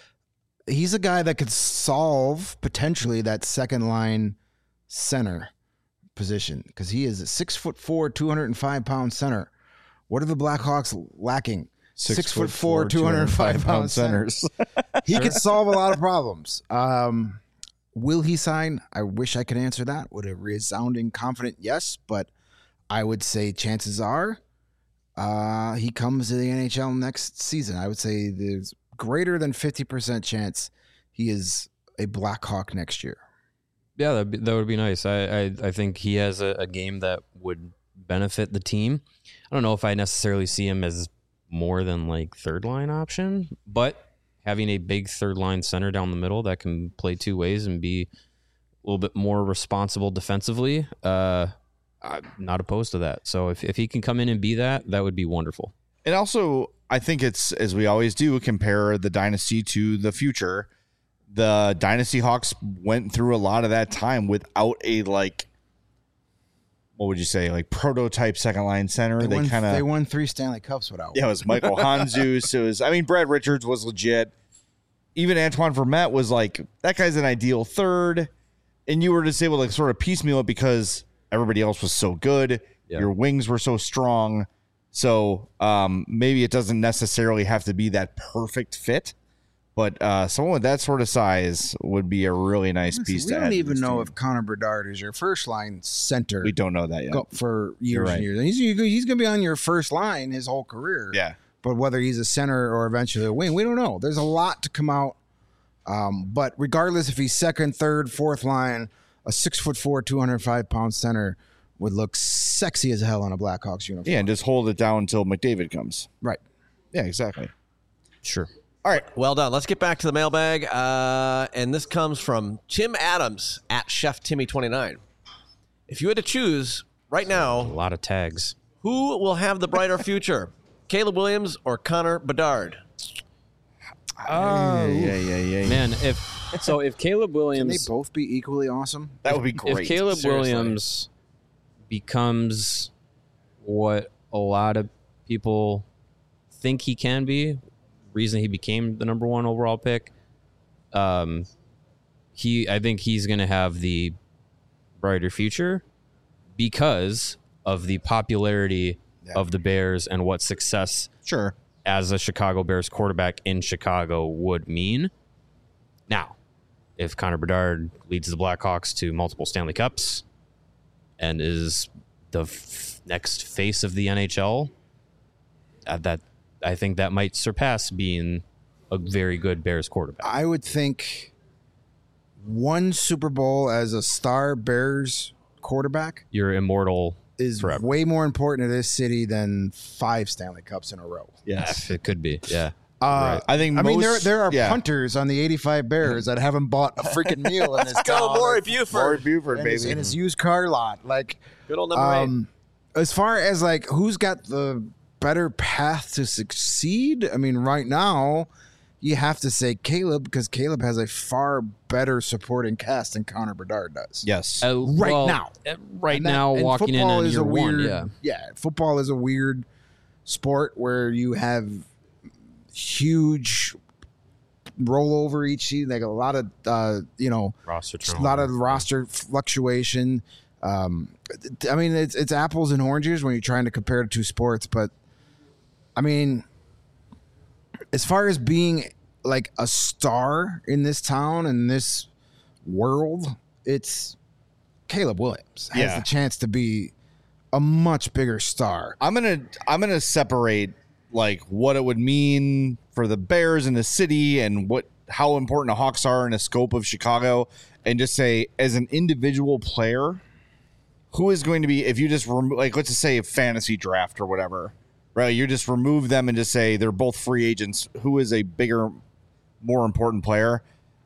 He's a guy that could solve potentially that second line center position because he is a six foot four, two hundred five pound center. What are the Blackhawks lacking? Six, foot four, two hundred five pound centers. He could solve a lot of problems. Um, will he sign? I wish I could answer that with a resounding confident yes, but I would say chances are uh, he comes to the N H L next season. I would say there's greater than fifty percent chance he is a Blackhawk next year. Yeah, that'd be, that would be nice. I, I, I think he has a, a game that would benefit the team. I don't know if I necessarily see him as more than like third line option, but having a big third line center down the middle that can play two ways and be a little bit more responsible defensively, uh, I'm not opposed to that. So if, if he can come in and be that, that would be wonderful. And also, I think it's, as we always do, compare the dynasty to the future. the Dynasty Hawks went through a lot of that time without a like, what would you say, like prototype second line center. They, They won, kind they of won three Stanley Cups without. yeah, it was Michael Hanzus. It was I mean Brad Richards was legit. Even Antoine Vermette was like that guy's an ideal third, and you were just able to sort of piecemeal it because everybody else was so good. Yeah. Your wings were so strong. So um, maybe it doesn't necessarily have to be that perfect fit, but uh, someone with that sort of size would be a really nice piece we to don't add to even this know team. if Connor Bedard is your first line center. We don't know that yet. go for You're years right. and years. And he's he's going to be on your first line his whole career. Yeah. But whether he's a center or eventually a wing, we don't know. There's a lot to come out. Um, but regardless if he's second, third, fourth line, a six foot four, two hundred five pound center would look sexy as hell on a Blackhawks uniform. Yeah, and just hold it down until McDavid comes. Right. Yeah, exactly. Sure. All right. Well done. Let's get back to the mailbag. Uh, and this comes from Tim Adams at Chef Timmy twenty-nine. If you had to choose right A now, lot of tags. who will have the brighter future? Caleb Williams or Connor Bedard? Oh, yeah, yeah, yeah. Man, if so, if Caleb Can they Williams, both be equally awesome? That would be great. if Caleb Seriously. Williams becomes what a lot of people think he can be, reason he became the number one overall pick, um, he I think he's going to have the brighter future because of the popularity Yeah. of the Bears and what success Sure. as a Chicago Bears quarterback in Chicago would mean. Now, if Connor Bedard leads the Blackhawks to multiple Stanley Cups and is the f- next face of the N H L, uh, that I think that might surpass being a very good Bears quarterback. I would think one Super Bowl as a star Bears quarterback You're immortal. is Forever. way more important to this city than five Stanley Cups in a row. Yes. It could be, yeah. Uh, I think I mean, there most- there are yeah. punters on the eighty-five Bears that haven't bought a freaking meal in this Go, town. Maury Maury Buford. Buford, in baby. his, in his used car lot. Like, Good old number eight. um, as far as like who's got the better path to succeed, I mean, right now you have to say Caleb because Caleb has a far better supporting cast than Connor Bedard does. yes. Uh, Right well, now. uh, right And that- now, and walking in football on is year a weird, one, yeah. football is a weird sport where you have huge rollover each season. Like a lot of uh, you know, Roster a lot of roster fluctuation. Um, I mean, it's it's apples and oranges when you're trying to compare the two sports. But I mean, as far as being like a star in this town and this world, it's Caleb Williams has Yeah. the chance to be a much bigger star. I'm gonna I'm gonna separate like what it would mean for the Bears in the city and what how important the Hawks are in the scope of Chicago, and just say as an individual player, who is going to be if you just remo- like let's just say a fantasy draft or whatever, right? You just remove them and just say they're both free agents. Who is a bigger, more important player?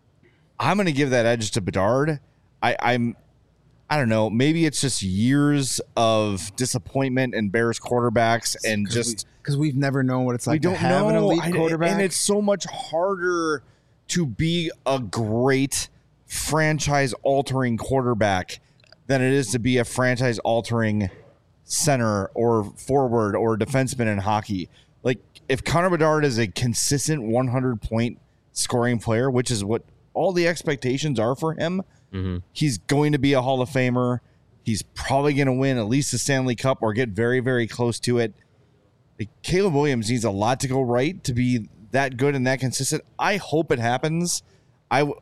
I'm gonna give that edge to Bedard. I, I'm. I don't know. Maybe it's just years of disappointment in Bears quarterbacks and just because we, have never known what it's we like to don't have know. an elite I- quarterback. and it's so much harder to be a great franchise-altering quarterback than it is to be a franchise-altering center or forward or defenseman in hockey. Like if Connor Bedard is a consistent one hundred point scoring player, which is what all the expectations are for him. Mm-hmm. He's going to be a Hall of Famer. He's probably going to win at least the Stanley Cup or get very, very close to it. Like, Caleb Williams needs a lot to go right to be that good and that consistent. I hope it happens. I, w-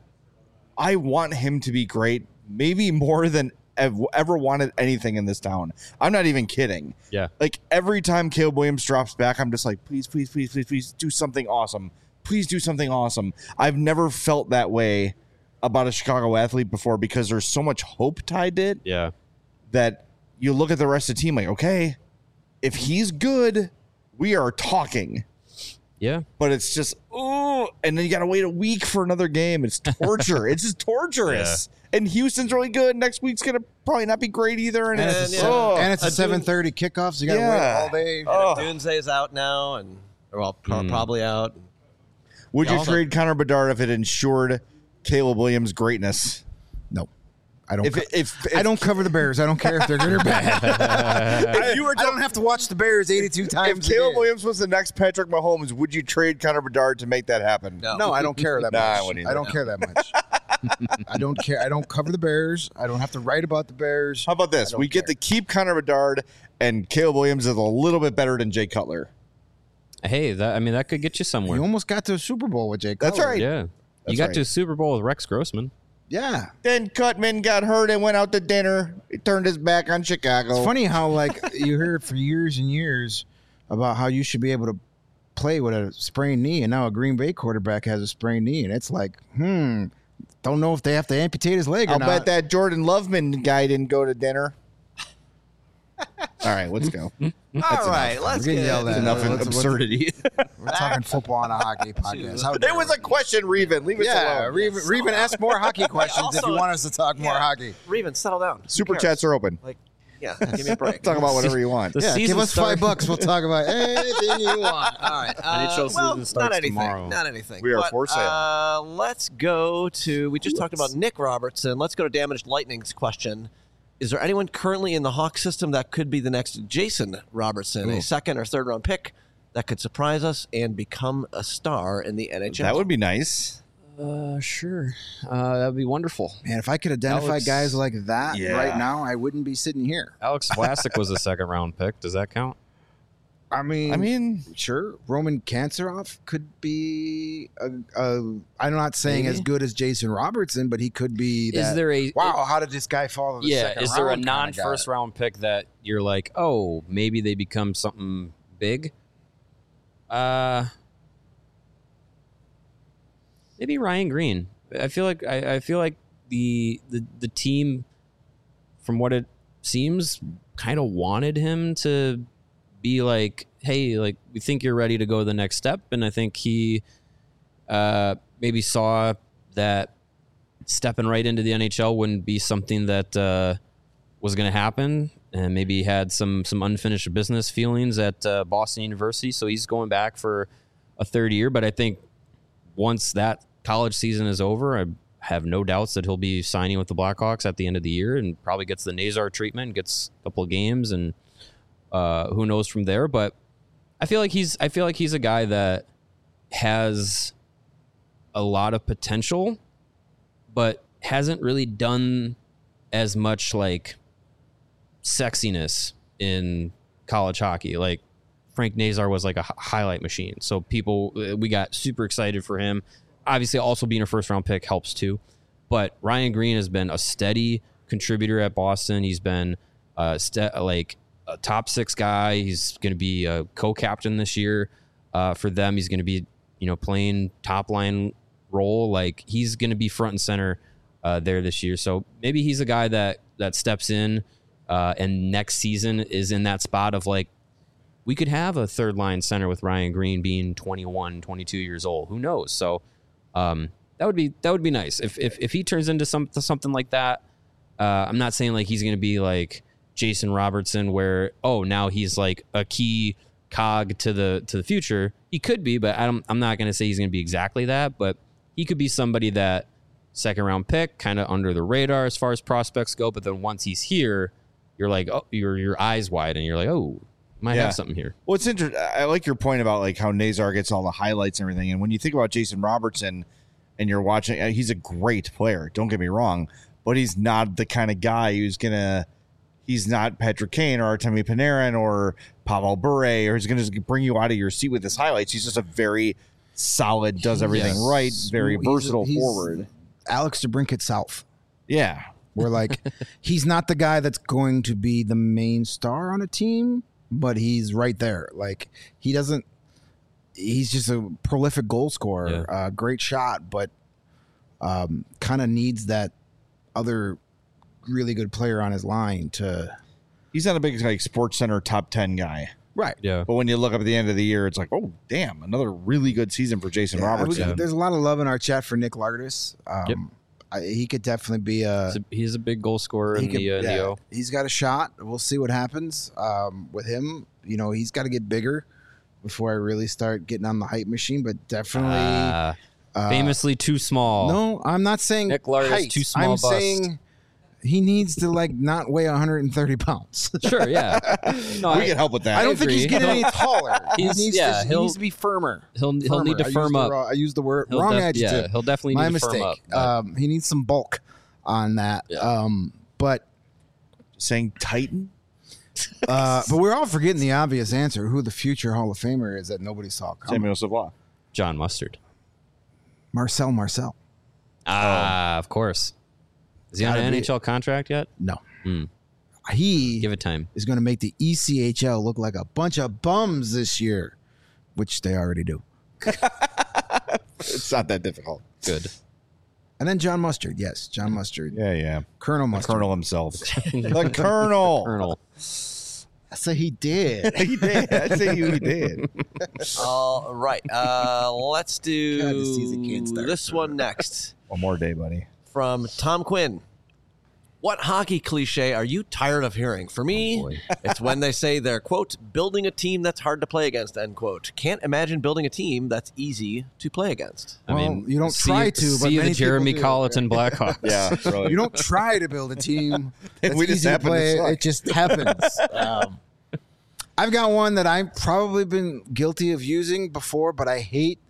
I want him to be great, maybe more than I've ever wanted anything in this town. I'm not even kidding. Yeah. Like every time Caleb Williams drops back, I'm just like, please, please, please, please, please do something awesome. Please do something awesome. I've never felt that way about a Chicago athlete before because there's so much hope tied to it Yeah. that you look at the rest of the team like, okay, if he's good, we are talking. Yeah. But it's just, oh, and then you got to wait a week for another game. It's torture. It's just torturous. And Houston's really good. Next week's going to probably not be great either. And, and it's, it's, yeah. a, oh, and it's a a seven thirty kickoff, so you got to Yeah. wait all day. oh. Doomsday's out now, and well, pro- Mm. probably out. Would you Also- trade Connor Bedard if it ensured Caleb Williams' greatness? No, I don't. If, co- if, if I don't cover the Bears. I don't care if they're good or bad. I, you were I don't have to watch the Bears eighty-two times. If a Caleb year. Williams was the next Patrick Mahomes, would you trade Connor Bedard to make that happen? No. No, I don't care that Nah, I much. wouldn't I either. don't care that much. I don't care. I don't cover the Bears. I don't have to write about the Bears. How about this? I don't We get care. to keep Connor Bedard, and Caleb Williams is a little bit better than Jay Cutler. Hey, that I mean that could get you somewhere. You almost got to a Super Bowl with Jake. That's Cutler. right. Yeah, That's you got right. to a Super Bowl with Rex Grossman. Yeah. Then Cutman got hurt and went out to dinner. He turned his back on Chicago. It's funny how like you heard for years and years about how you should be able to play with a sprained knee, and now a Green Bay quarterback has a sprained knee, and it's like, hmm, don't know if they have to amputate his leg or I'll not. bet that Jordan Loveman guy didn't go to dinner. All right, let's go. All right, let's We're getting get yelled That's at. enough Let's- let's- absurdity. We're talking football on a hockey podcast. How It dare was a we? question, Reven. Leave us Yeah, alone. Reven, Reven, ask more hockey questions if you want us to talk more Yeah. hockey. Reven, settle down. Who Super cares? chats are open. Like, yeah, give me a break. Talk about whatever you want. The Yeah, season give us start- five bucks. We'll talk about anything you want. All right. N H Uh, L season well, starts not anything. tomorrow. Not anything. We are But, for sale. Uh, let's go to. We just talked about Nick Robertson. Let's go to Damaged Lightning's question. Is there anyone currently in the Hawk system that could be the next Jason Robertson, a second or third round pick that could surprise us and become a star in the N H L? That would be nice. Uh, sure. Uh, that'd be wonderful. Man, if I could identify Alex- guys like that Yeah. right now, I wouldn't be sitting here. Alex Vlasic was a second round pick. Does that count? I mean, I mean, sure, Roman Kanserov could be a, a I'm not saying Maybe. as good as Jason Robertson, but he could be. That, Is there a wow? How did this guy fall? To the yeah? second Is there a round kinda non guy? first round pick that you're like, oh, maybe they become something big? Uh, maybe Ryan Green. I feel like I, I feel like the the the team, from what it seems, kind of wanted him to be like, hey, like we think you're ready to go the next step, and I think he uh, maybe saw that stepping right into the N H L wouldn't be something that uh, was going to happen, and maybe had some some unfinished business feelings at uh, Boston University, so he's going back for a third year. But I think once that college season is over, I have no doubts that he'll be signing with the Blackhawks at the end of the year, and probably gets the Nazar treatment, gets a couple of games, and uh, who knows from there. But I feel like he's I feel like he's a guy that has a lot of potential, but hasn't really done as much like sexiness in college hockey. Like Frank Nazar was like a h- highlight machine. So people, we got super excited for him. Obviously also being a first round pick helps too, but Ryan Green has been a steady contributor at Boston. He's been uh st- like a top six guy. He's going to be a co-captain this year uh, for them. He's going to be, you know, playing top line role. Like he's going to be front and center uh, there this year. So maybe he's a guy that that steps in uh, and next season is in that spot of like, we could have a third line center with Ryan Green being twenty-one, twenty-two years old. Who knows? So um, that would be that would be nice if if if he turns into some something like that. Uh, I'm not saying like he's going to be like Jason Robertson, where oh now he's like a key cog to the to the future. He could be, but I don't, I'm not going to say he's going to be exactly that. But he could be somebody that second round pick, kind of under the radar as far as prospects go. But then once he's here, you're like, oh, your your eyes wide, and you're like, oh, might Yeah. have something here. Well, it's interesting. I like your point about like how Nazar gets all the highlights and everything. And when you think about Jason Robertson, and you're watching, uh, he's a great player. Don't get me wrong, but he's not the kind of guy who's gonna. He's not Patrick Kane or Artemi Panarin or Pavel Bure, or he's gonna just bring you out of your seat with his highlights. He's just a very solid, does everything Yes. right, very He's- versatile he's forward. Alex DeBrincat South. Yeah, Where like he's not the guy that's going to be the main star on a team, but he's right there. Like he doesn't. He's just a prolific goal scorer, Yeah. uh, great shot, but um, kind of needs that other really good player on his line to. he's not a big like Sports Center top ten guy. Right. Yeah. But when you look up at the end of the year, it's like, oh damn, another really good season for Jason Yeah, Robertson. we- There's a lot of love in our chat for Nick Lardis. Um, Yep. I, he could definitely be a. He's a, he's a big goal scorer he in could- the, uh, in the yeah, O. he's got a shot. We'll see what happens um, with him. You know, he's got to get bigger before I really start getting on the hype machine. But definitely, Uh, Famously too small. No, I'm not saying Nick Larder's height. too small I'm bust. saying he needs to like not weigh one hundred thirty pounds. Sure, yeah. No, we I, can help with that. I don't think he's agree. getting any taller. He He's- needs, yeah, to, he he'll- needs to be firmer. he'll he'll Firmer. need to I firm used the up. raw- I used the word He'll wrong def- adjective. Yeah, he'll definitely My need to mistake. firm up. but- Um, he needs some bulk on that. Yeah. Um, but Saying Titan? uh, but we're all forgetting the obvious answer: who the future Hall of Famer is that nobody saw coming. Samuel Savoie. John Mustard. Marcel Marcel. Ah, of course. Is he on Gotta an be- N H L contract yet? No, Hmm. he Give it time. is going to make the E C H L look like a bunch of bums this year, which they already do. It's not that difficult. Good. And then John Mustard, yes, John Mustard, Yeah, yeah. Colonel The Mustard. Colonel himself. the Colonel. Colonel. I say he did. he did. I say you he did. All right. Uh, let's do God, this season can't start. this one next One more day, buddy. from Tom Quinn. What hockey cliche are you tired of hearing? For me, boy. it's when they say they're, quote, building a team that's hard to play against, end quote. Can't imagine building a team that's easy to play against. I Well, mean, you don't see, try to, but see many the Jeremy people do. Colleton Blackhawks. Yeah, really. You don't try to build a team that's We just easy to happen to play. suck. It just happens. Um, I've got one that I've probably been guilty of using before, but I hate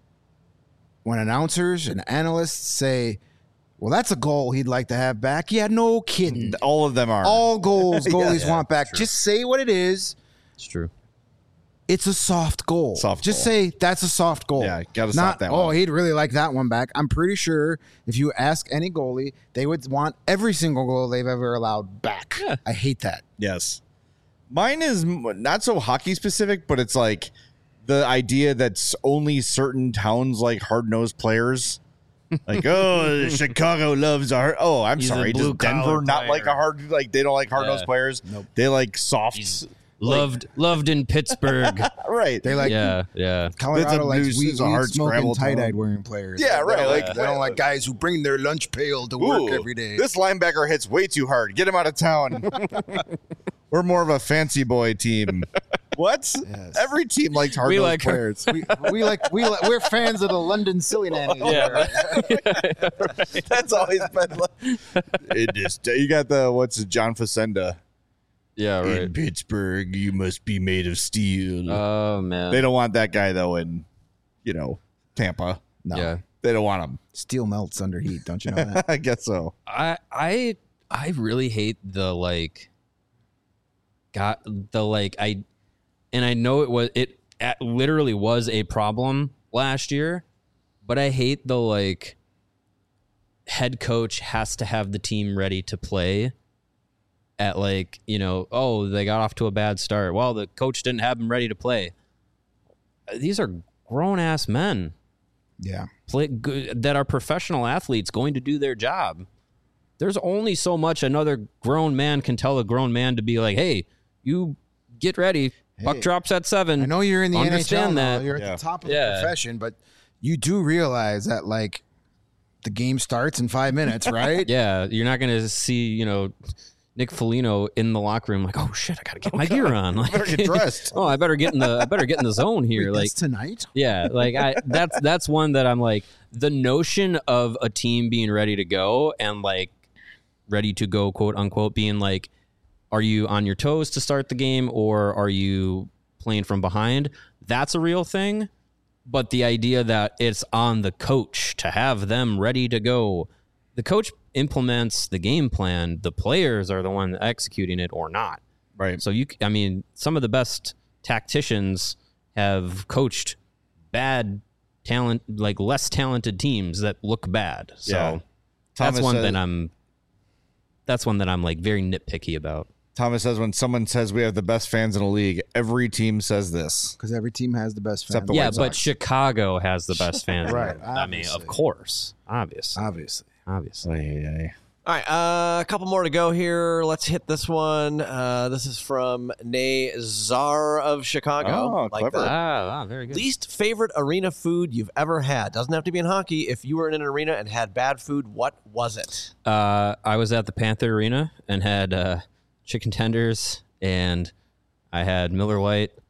when announcers and analysts say, well, that's a goal he'd like to have back. Yeah, no kidding. All of them are. All goals goalies yeah, want back. true. Just say what it is. It's true. It's a soft goal. Soft Just goal. say that's a soft goal. Yeah, gotta Not, stop that oh, one. he'd really like that one back. I'm pretty sure if you ask any goalie, they would want every single goal they've ever allowed back. Yeah. I hate that. Yes. Mine is m- not so hockey specific, but it's like the idea that s- only certain towns like hard nosed players. Like, oh, Chicago loves our. Oh, I'm He's a sorry. Does blue-collar Denver not player. like a hard? Like, they don't like hard nosed Yeah. players. Nope. They like softs. Loved loved in Pittsburgh. Right. They like yeah, yeah. Colorado That's a likes loose- weed, it's a hard weed smoking, scrabble tie dyed town. wearing players. Yeah, They right, don't like- they don't like guys who bring their lunch pail to work Ooh, every day. This linebacker hits way too hard. Get him out of town. We're more of a fancy boy team. What? Yes. Every team likes hard We nosed like her. players. we, we like we like, we're fans of the London Silly Nannies. Yeah. That's always been like. It just you got the what's it, John Facenda. Yeah, In right. Pittsburgh, you must be made of steel. Oh man. they don't want that guy though in, you know, Tampa. No, Yeah. They don't want him. steel melts under heat. Don't you know that? I guess so. I I I really hate the like got the like I and I know it was it at, literally was a problem last year, but I hate the like head coach has to have the team ready to play at like, you know, oh, they got off to a bad start. Well, the coach didn't have them ready to play. These are grown ass men Yeah. play good, that are professional athletes going to do their job. There's only so much another grown man can tell a grown man to be like, hey, you get ready. Buck Hey, drops at seven. I know you're in the Understand N H L now. that. You're at Yeah. the top of Yeah. the profession, but you do realize that like the game starts in five minutes, right? Yeah, you're not going to see, you know, Nick Foligno in the locker room like, oh shit, I got to get my gear on. Like, better get dressed. oh, I better get in the I better get in the zone here. Wait, like that's tonight. Yeah, like I that's that's one that I'm like the notion of a team being ready to go and like ready to go, quote unquote, being like, are you on your toes to start the game or are you playing from behind? That's a real thing. But the idea that it's on the coach to have them ready to go, the coach implements the game plan. The players are the one executing it or not. Right. So you, I mean, some of the best tacticians have coached bad talent, like less talented teams that look bad. So Yeah. that's Thomas one says- that I'm. That's one that I'm like very nitpicky about. Thomas says when someone says we have the best fans in the league, every team says this. Because every team has the best Except fans. the yeah, White but Sox. Chicago has the best fans. Right, I mean, obviously. of course, obviously, Obviously. obviously. All right, uh, a couple more to go here. Let's hit this one. Uh, this is from Nazar of Chicago. Oh, Like clever. that. Ah, ah, very good. Least favorite arena food you've ever had. Doesn't have to be in hockey. If you were in an arena and had bad food, what was it? Uh, I was at the Panther Arena and had uh, chicken tenders, and I had Miller Lite,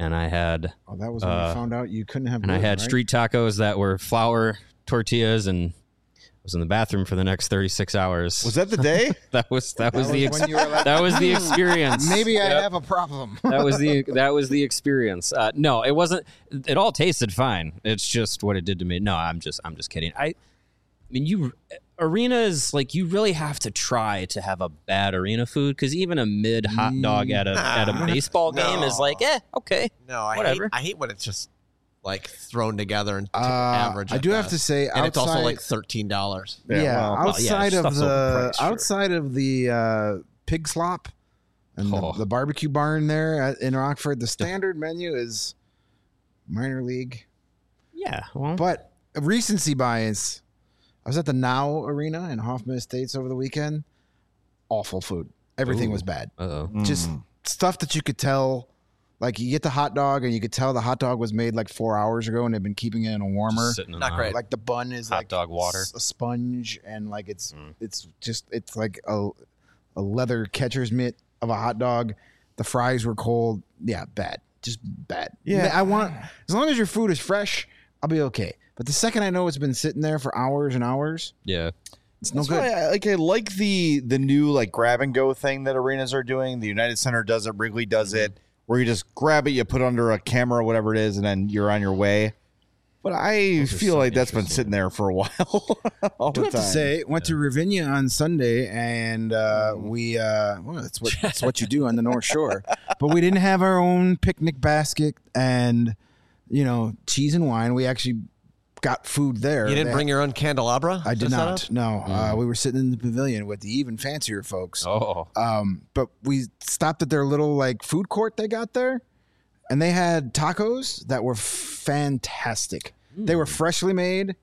and I had Oh, that was when Uh, you found out you couldn't have. and I gluten, had right? street tacos that were flour tortillas, and was in the bathroom for the next thirty-six hours. Was that the day? that was that was That the was ex- when you were like, that was the experience. Maybe I Yep. have a problem. that was the that was the experience. Uh, no, it wasn't. It all tasted fine. It's just what it did to me. No, I'm just I'm just kidding. I, I mean, you arenas like you really have to try to have a bad arena food because even a mid hot dog at a at a baseball game is like, eh, okay. No, I Whatever. hate I hate when it's just like thrown together and t- Uh, average. I at do have best. to say, and it's also outside- like thirteen dollars. Yeah, well, well, yeah, outside of stuff's the overpriced, sure. outside of the uh, pig slop and Oh. the, the barbecue barn there at, in Rockford, the standard menu is minor league. Yeah, well, But recency bias. I was at the Now Arena in Hoffman Estates over the weekend. Awful food. Everything Ooh. was bad. uh oh. Just stuff that you could tell. Like you get the hot dog and you could tell the hot dog was made like four hours ago and they've been keeping it in a warmer. Sitting in Not the- great. Like the bun is Hot like dog water. s- a sponge and like it's Mm. it's just it's like a a leather catcher's mitt of a hot dog. The fries were cold. Yeah, bad. Just bad. Yeah. I want as long as your food is fresh, I'll be okay. But the second I know it's been sitting there for hours and hours, Yeah. it's no That's good. why I, like I like the the new like grab and go thing that arenas are doing. The United Center does it. Wrigley does it. Where you just grab it, you put it under a camera or whatever it is, and then you're on your way. But I Those are feel so like that's been interesting. sitting there for a while. all I do the have time. to say, went to Ravinia on Sunday, and uh, we uh, well, that's what that's what you do on the North Shore. But we didn't have our own picnic basket and you know cheese and wine. We actually got food there. You didn't They- bring your own candelabra? I did to set not. up? No, uh, we were sitting in the pavilion with the even fancier folks. Oh. Um, but we stopped at their little like food court they got there, and they had tacos that were fantastic. They were freshly made.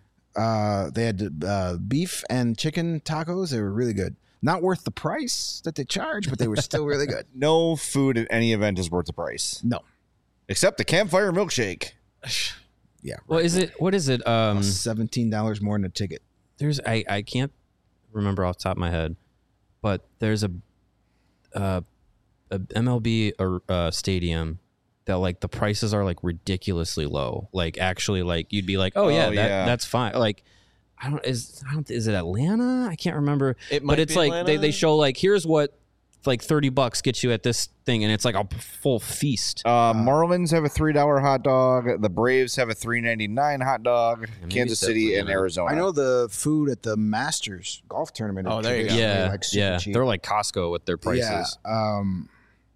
Uh, they had uh, beef and chicken tacos. They were really good. Not worth the price that they charge, but they were still really good. No food at any event is worth the price, No, except the campfire milkshake. yeah, Well, is it? What is it? Um, seventeen dollars more than a ticket. there's I I can't remember off the top of my head, but there's a uh, a M L B or uh, stadium that like the prices are like ridiculously low. Like actually, like you'd be like, oh, Oh, yeah, that, yeah. that's fine. Like I don't is I don't is it Atlanta? I can't remember. It might but it's be like they, Atlanta. they show like here's what like thirty bucks gets you at this thing, and it's like a full feast. Uh, Marlins have a three dollar hot dog. The Braves have a three ninety nine hot dog. maybe Kansas it's City and definitely- Arizona. I know the food at the Masters golf tournament. Oh, is there you go. traditionally, yeah, like super yeah, cheap. they're like Costco with their prices. Yeah, um,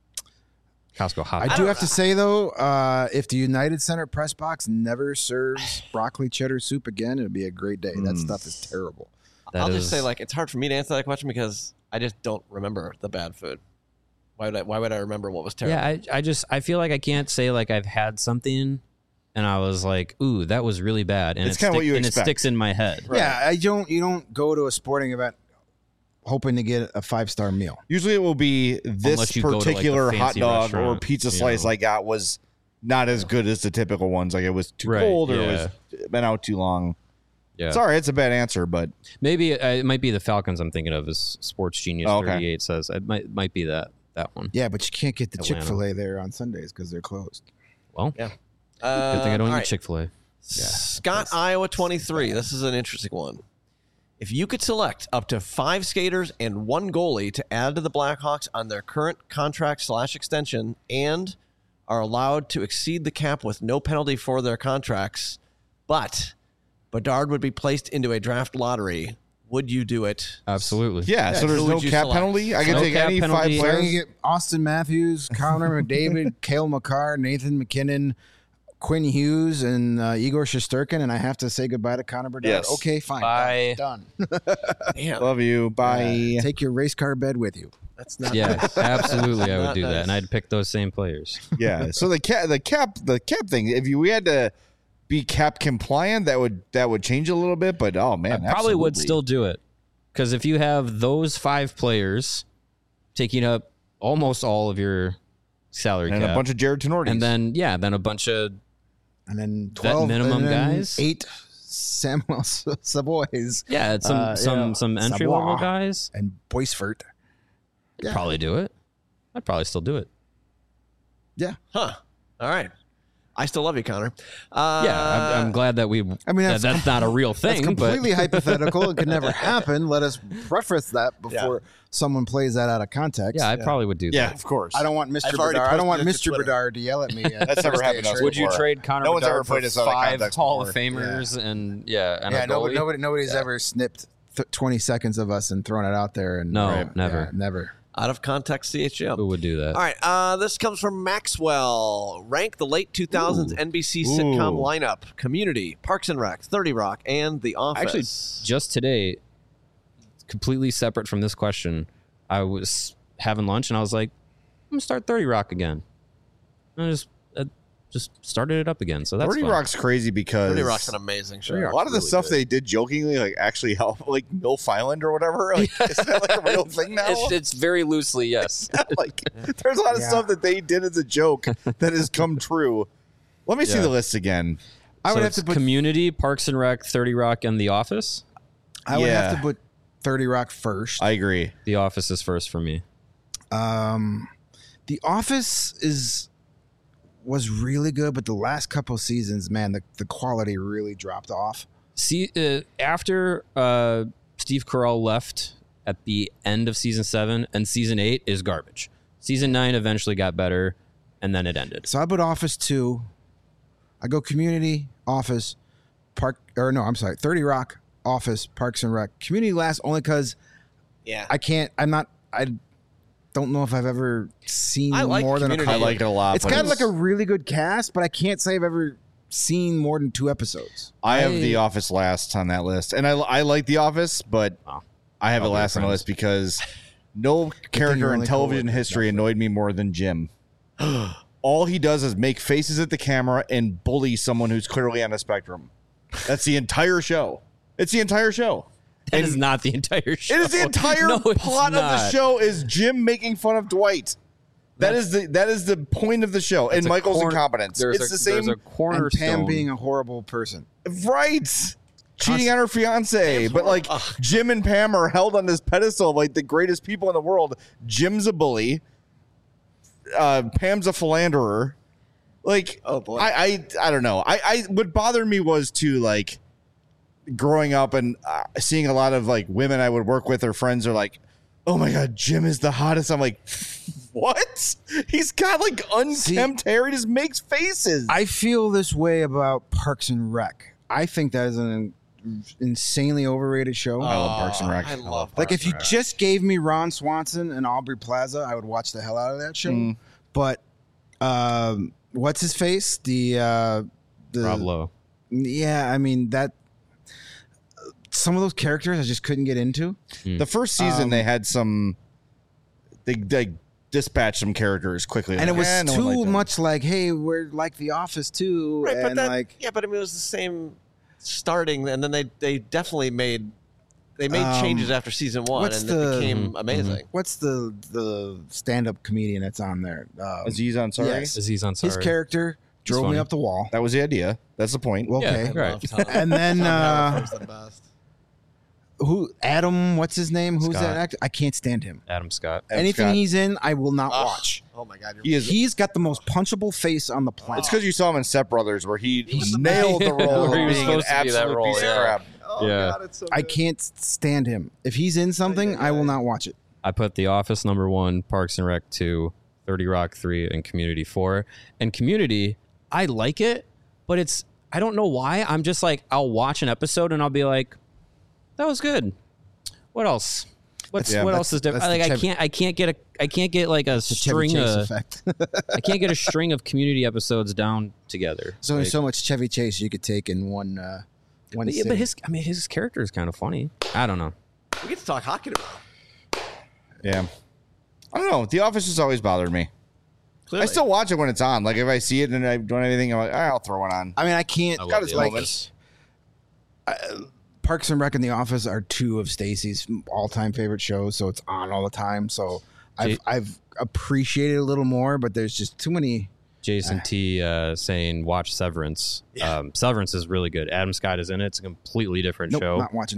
Costco hot. I dog. do have to say though, uh, if the United Center press box never serves broccoli cheddar soup again, it'd be a great day. That Mm. stuff is terrible. That I'll is- just say, like, it's hard for me to answer that question because I just don't remember the bad food. Why would I? Why would I remember what was terrible? Yeah, I, I just I feel like I can't say like I've had something and I was like, ooh, that was really bad, and It's it kinda what you and expect. it sticks in my head. Yeah, I don't. You don't go to a sporting event hoping to get a five star meal. Usually it will be this Unless you go to, like, the particular hot fancy dog or restaurant, pizza you slice know. I got was not as good as the typical ones. Like it was too Right, cold or yeah. it was been out too long. Yeah, Sorry, it's a bad answer, but maybe uh, it might be the Falcons. I'm thinking of as Sports Genius Oh, okay. thirty-eight says it might might be that that one. Yeah, but you can't get the Chick Atlanta. Fil A there on Sundays because they're closed. Well, Yeah. good thing I don't Uh, all eat right. Chick Fil A. Scott, Iowa twenty-three. This is an interesting one. If you could select up to five skaters and one goalie to add to the Blackhawks on their current contract slash extension and are allowed to exceed the cap with no penalty for their contracts, but Bedard would be placed into a draft lottery, would you do it? Absolutely. yeah. So who there's would no you cap select? penalty. I can No take cap any penalty. five So I can players. get Austin Matthews, Connor McDavid, Cale Makar, Nathan McKinnon, Quinn Hughes, and uh, Igor Shesterkin, and I have to say goodbye to Connor Bedard. Yes. Okay, fine. Bye. Done. Damn, Love you. Bye. Uh, take your race car bed with you. that's not Yeah, absolutely, I would Not do that, nice. and I'd pick those same players. yeah. So the cap, the cap, the cap thing. If you we had to be cap compliant, that would that would change a little bit. But oh man, I probably would absolutely. still do it because if you have those five players taking up almost all of your salary and cap, a bunch of Jared Tenortis. and then yeah, then a bunch of And then twelve minimum and then guys? eight Samuel Savoys yeah, it's some Uh, some yeah. some entry Savoy. level guys. and Boisfort. Yeah. Probably do it. I'd probably still do it. Yeah. Huh. All right. I still love you, Connor. Uh, Yeah, I'm, I'm glad that we. I mean, that, that's that's not a real thing. It's completely but hypothetical. It could never happen. Let us preface that before someone plays that out of context. yeah, I probably would do Yeah, that. of course. I don't want Mister I've already Bedard. I don't want posted it to Mister Twitter. Bedard to yell at me. At That's never first day happened to of us training. Would you before. trade Connor No one's Bedard ever played for us out of five context Hall before. of Famers and yeah, and Yeah, a nobody, goalie? nobody, nobody's Yeah. ever snipped th- twenty seconds of us and thrown it out there. And No, Right. never. Yeah, never. Out of context, C H L. Who would do that? All right. Uh, this comes from Maxwell. Rank the late two thousands N B C sitcom Ooh. lineup: Community, Parks and Rec, thirty Rock, and The Office. Actually, just today, completely separate from this question, I was having lunch and I was like, I'm gonna start thirty Rock again. And I just uh, just started it up again. So that's thirty fun. Rock's crazy because thirty Rock's an amazing show. a lot of the stuff they did jokingly like actually help, like Milf Island or whatever. Like, isn't that like a real thing now? It's, it's very loosely, yes. Like, there's a lot of Yeah. stuff that they did as a joke that has come true. Let me see Yeah. the list again. I So would have it's to put. Community, Parks and Rec, thirty Rock, and The Office. I would Yeah. have to put thirty Rock first. I agree. The Office is first for me. Um, The Office is was really good, but the last couple of seasons, man, the, the quality really dropped off. See, uh, after uh, Steve Carell left at the end of season seven, and season eight is garbage. Season nine eventually got better, and then it ended. So I put Office two. I go Community, Office, Park, or no, I'm sorry, thirty Rock, Office, Parks and Rec. Community last only because Yeah. I can't. I'm not. I don't know if I've ever seen I like more than a Community. I couple. like it a lot. It's but got like a really good cast, but I can't say I've ever seen more than two episodes. I have I- The Office last on that list, and I I like The Office, but Wow. I have it Probably last on the friends. list because no you're character in only television cool with history annoyed me more than Jim. All he does is make faces at the camera and bully someone who's clearly on a spectrum. That's the entire show. It's the entire show. That And is not the entire show. It is the entire No, it's plot of the not. show is Jim making fun of Dwight. That is the that is the point of the show, and a Michael's corn- incompetence. There's It's a, the same, There's a And cornerstone. Pam being a horrible person. right? Cheating on her fiance, but like Jim and Pam are held on this pedestal of like the greatest people in the world. Jim's a bully. Uh, Pam's a philanderer. Like, Oh, boy. I, I, I don't know. I, I, what bothered me was to like growing up and uh, seeing a lot of like women I would work with or friends are like, oh my god, Jim is the hottest. I'm like, what? He's got like unkempt hair. He just makes faces. I feel this way about Parks and Rec. I think that is an insanely overrated show. I love Parks and Rec. I love like Parks if you and Rec. just gave me Ron Swanson and Aubrey Plaza, I would watch the hell out of that show. Mm. But um, what's his face? The uh, the Rob Lowe. yeah, I mean that. Some of those characters I just couldn't get into. The first season Um, they had some they they dispatched some characters quickly, And it Like, was eh, no one too liked them. much like, hey, we're like The Office too, Right, but and that, like yeah, but I mean, it was the same starting, and then they they definitely made they made Um, changes after season one, what's and the- it became Mhm, amazing. what's the the stand up comedian that's on there? Um, Aziz Ansari. Yes. Aziz Ansari. his character drove funny. me up the wall. That was the idea. That's the point. Well, Yeah, okay. right. love Tom. And then Tom uh, Haverford's the best. who Adam? What's his name? Who's Scott. that actor? I can't stand him. Adam Scott. Adam Anything Scott. he's in, I will not Ugh. watch. Oh my god, you're He is. He's got the most punchable face on the planet. It's because you saw him in Step Brothers, where he nailed the role Where he of was being an supposed to be that absolute role, piece yeah. of crap. oh Yeah. god, it's so I good. can't stand him. If he's in something, I will not watch it. I put The Office number one, Parks and Rec two, thirty Rock three, and Community four. And Community, I like it, but it's I don't know why. I'm just like I'll watch an episode and I'll be like, that was good. What else? What's Yeah, what that's- else is different? that's the Like I Chevy- can't I can't get a I can't get like a The Chevy string Chase of effect. I can't get a string of Community episodes down together. There's only Like- so much Chevy Chase you could take in one. Uh, one. but, yeah, but sitting. his I mean his character is kind of funny. I don't know. We get to talk hockey tomorrow. Yeah. I don't know. The Office has always bothered me. Clearly. I still watch it when it's on. Like if I see it and I don't have anything, I'm like, "Ah, I'll throw it on. I mean, I can't. I got love his The moments. Office. Parks and Rec and The Office are two of Stacy's all-time favorite shows, so it's on all the time. So I've Jay- I've appreciated it a little more, but there's just too many. Jason T uh, saying watch Severance. Yeah. Um, Severance is really good. Adam Scott is in it. It's a completely different Nope, show. not watching it.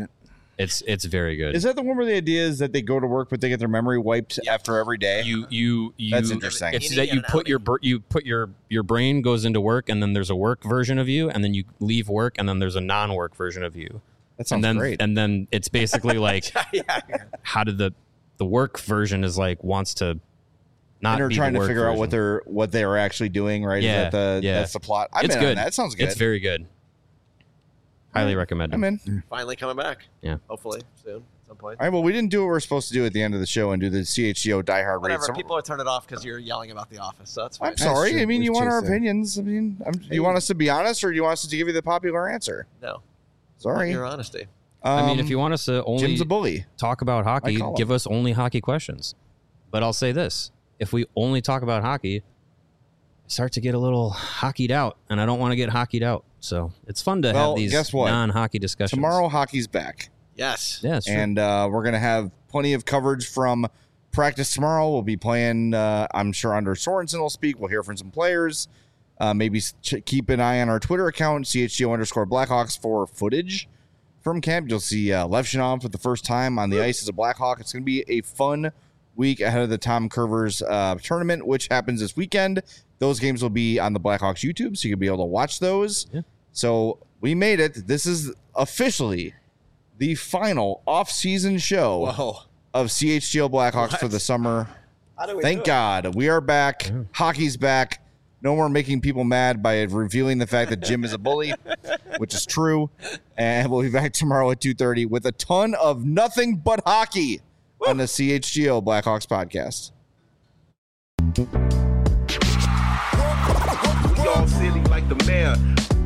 It's it's very good. Is that the one where the idea is that they go to work but they get their memory wiped after every day? You you you. That's interesting. It's that you put your br- you put your your brain goes into work, and then there's a work version of you, and then you leave work, and then there's a non-work version of you. That sounds and then, great. And then it's basically like, yeah. how did the the work version is like wants to not and they're be trying the to work figure version. out what they're what they are actually doing, right? Yeah, Is that the yeah. that's the plot. I'm It's in good. on that. That sounds good. It's very good. Highly recommend it. I'm in. Finally coming back. Yeah. Hopefully soon at some point. All right, well, we didn't do what we we're supposed to do at the end of the show and do the C H G O Die Hard Whatever. rate. So People are turning it off because you're yelling about The Office. So that's fine. I'm sorry. true. I mean, We've you want our chased that. opinions. I mean, I'm, you want us to be honest, or do you want us to give you the popular answer? No. Sorry. Your honesty. I mean, Um, if you want us to only Jim's a bully. talk about hockey, call him. give us only hockey questions. But I'll say this: if we only talk about hockey, I start to get a little hockeyed out, and I don't want to get hockeyed out. So it's fun to Well, have these guess what? non-hockey discussions. Tomorrow, hockey's back. Yes. yeah, it's true. And uh, we're going to have plenty of coverage from practice tomorrow. We'll be playing, uh, I'm sure, under Sorensen will speak. We'll hear from some players. Uh, maybe ch- keep an eye on our Twitter account, C H G O underscore Blackhawks, for footage from camp. You'll see uh, Levshinov for the first time on the ice as a Blackhawk. It's going to be a fun week ahead of the Tom Curvers uh, tournament, which happens this weekend. Those games will be on the Blackhawks YouTube, so you'll be able to watch those. Yeah. So we made it. This is officially the final off-season show Whoa. of C H G O Blackhawks What? for the summer. How do we Thank do it? God we are back. Hockey's back. No more making people mad by revealing the fact that Jim is a bully, which is true. And we'll be back tomorrow at two thirty with a ton of nothing but hockey on the C H G O Blackhawks podcast. We all silly like the mayor.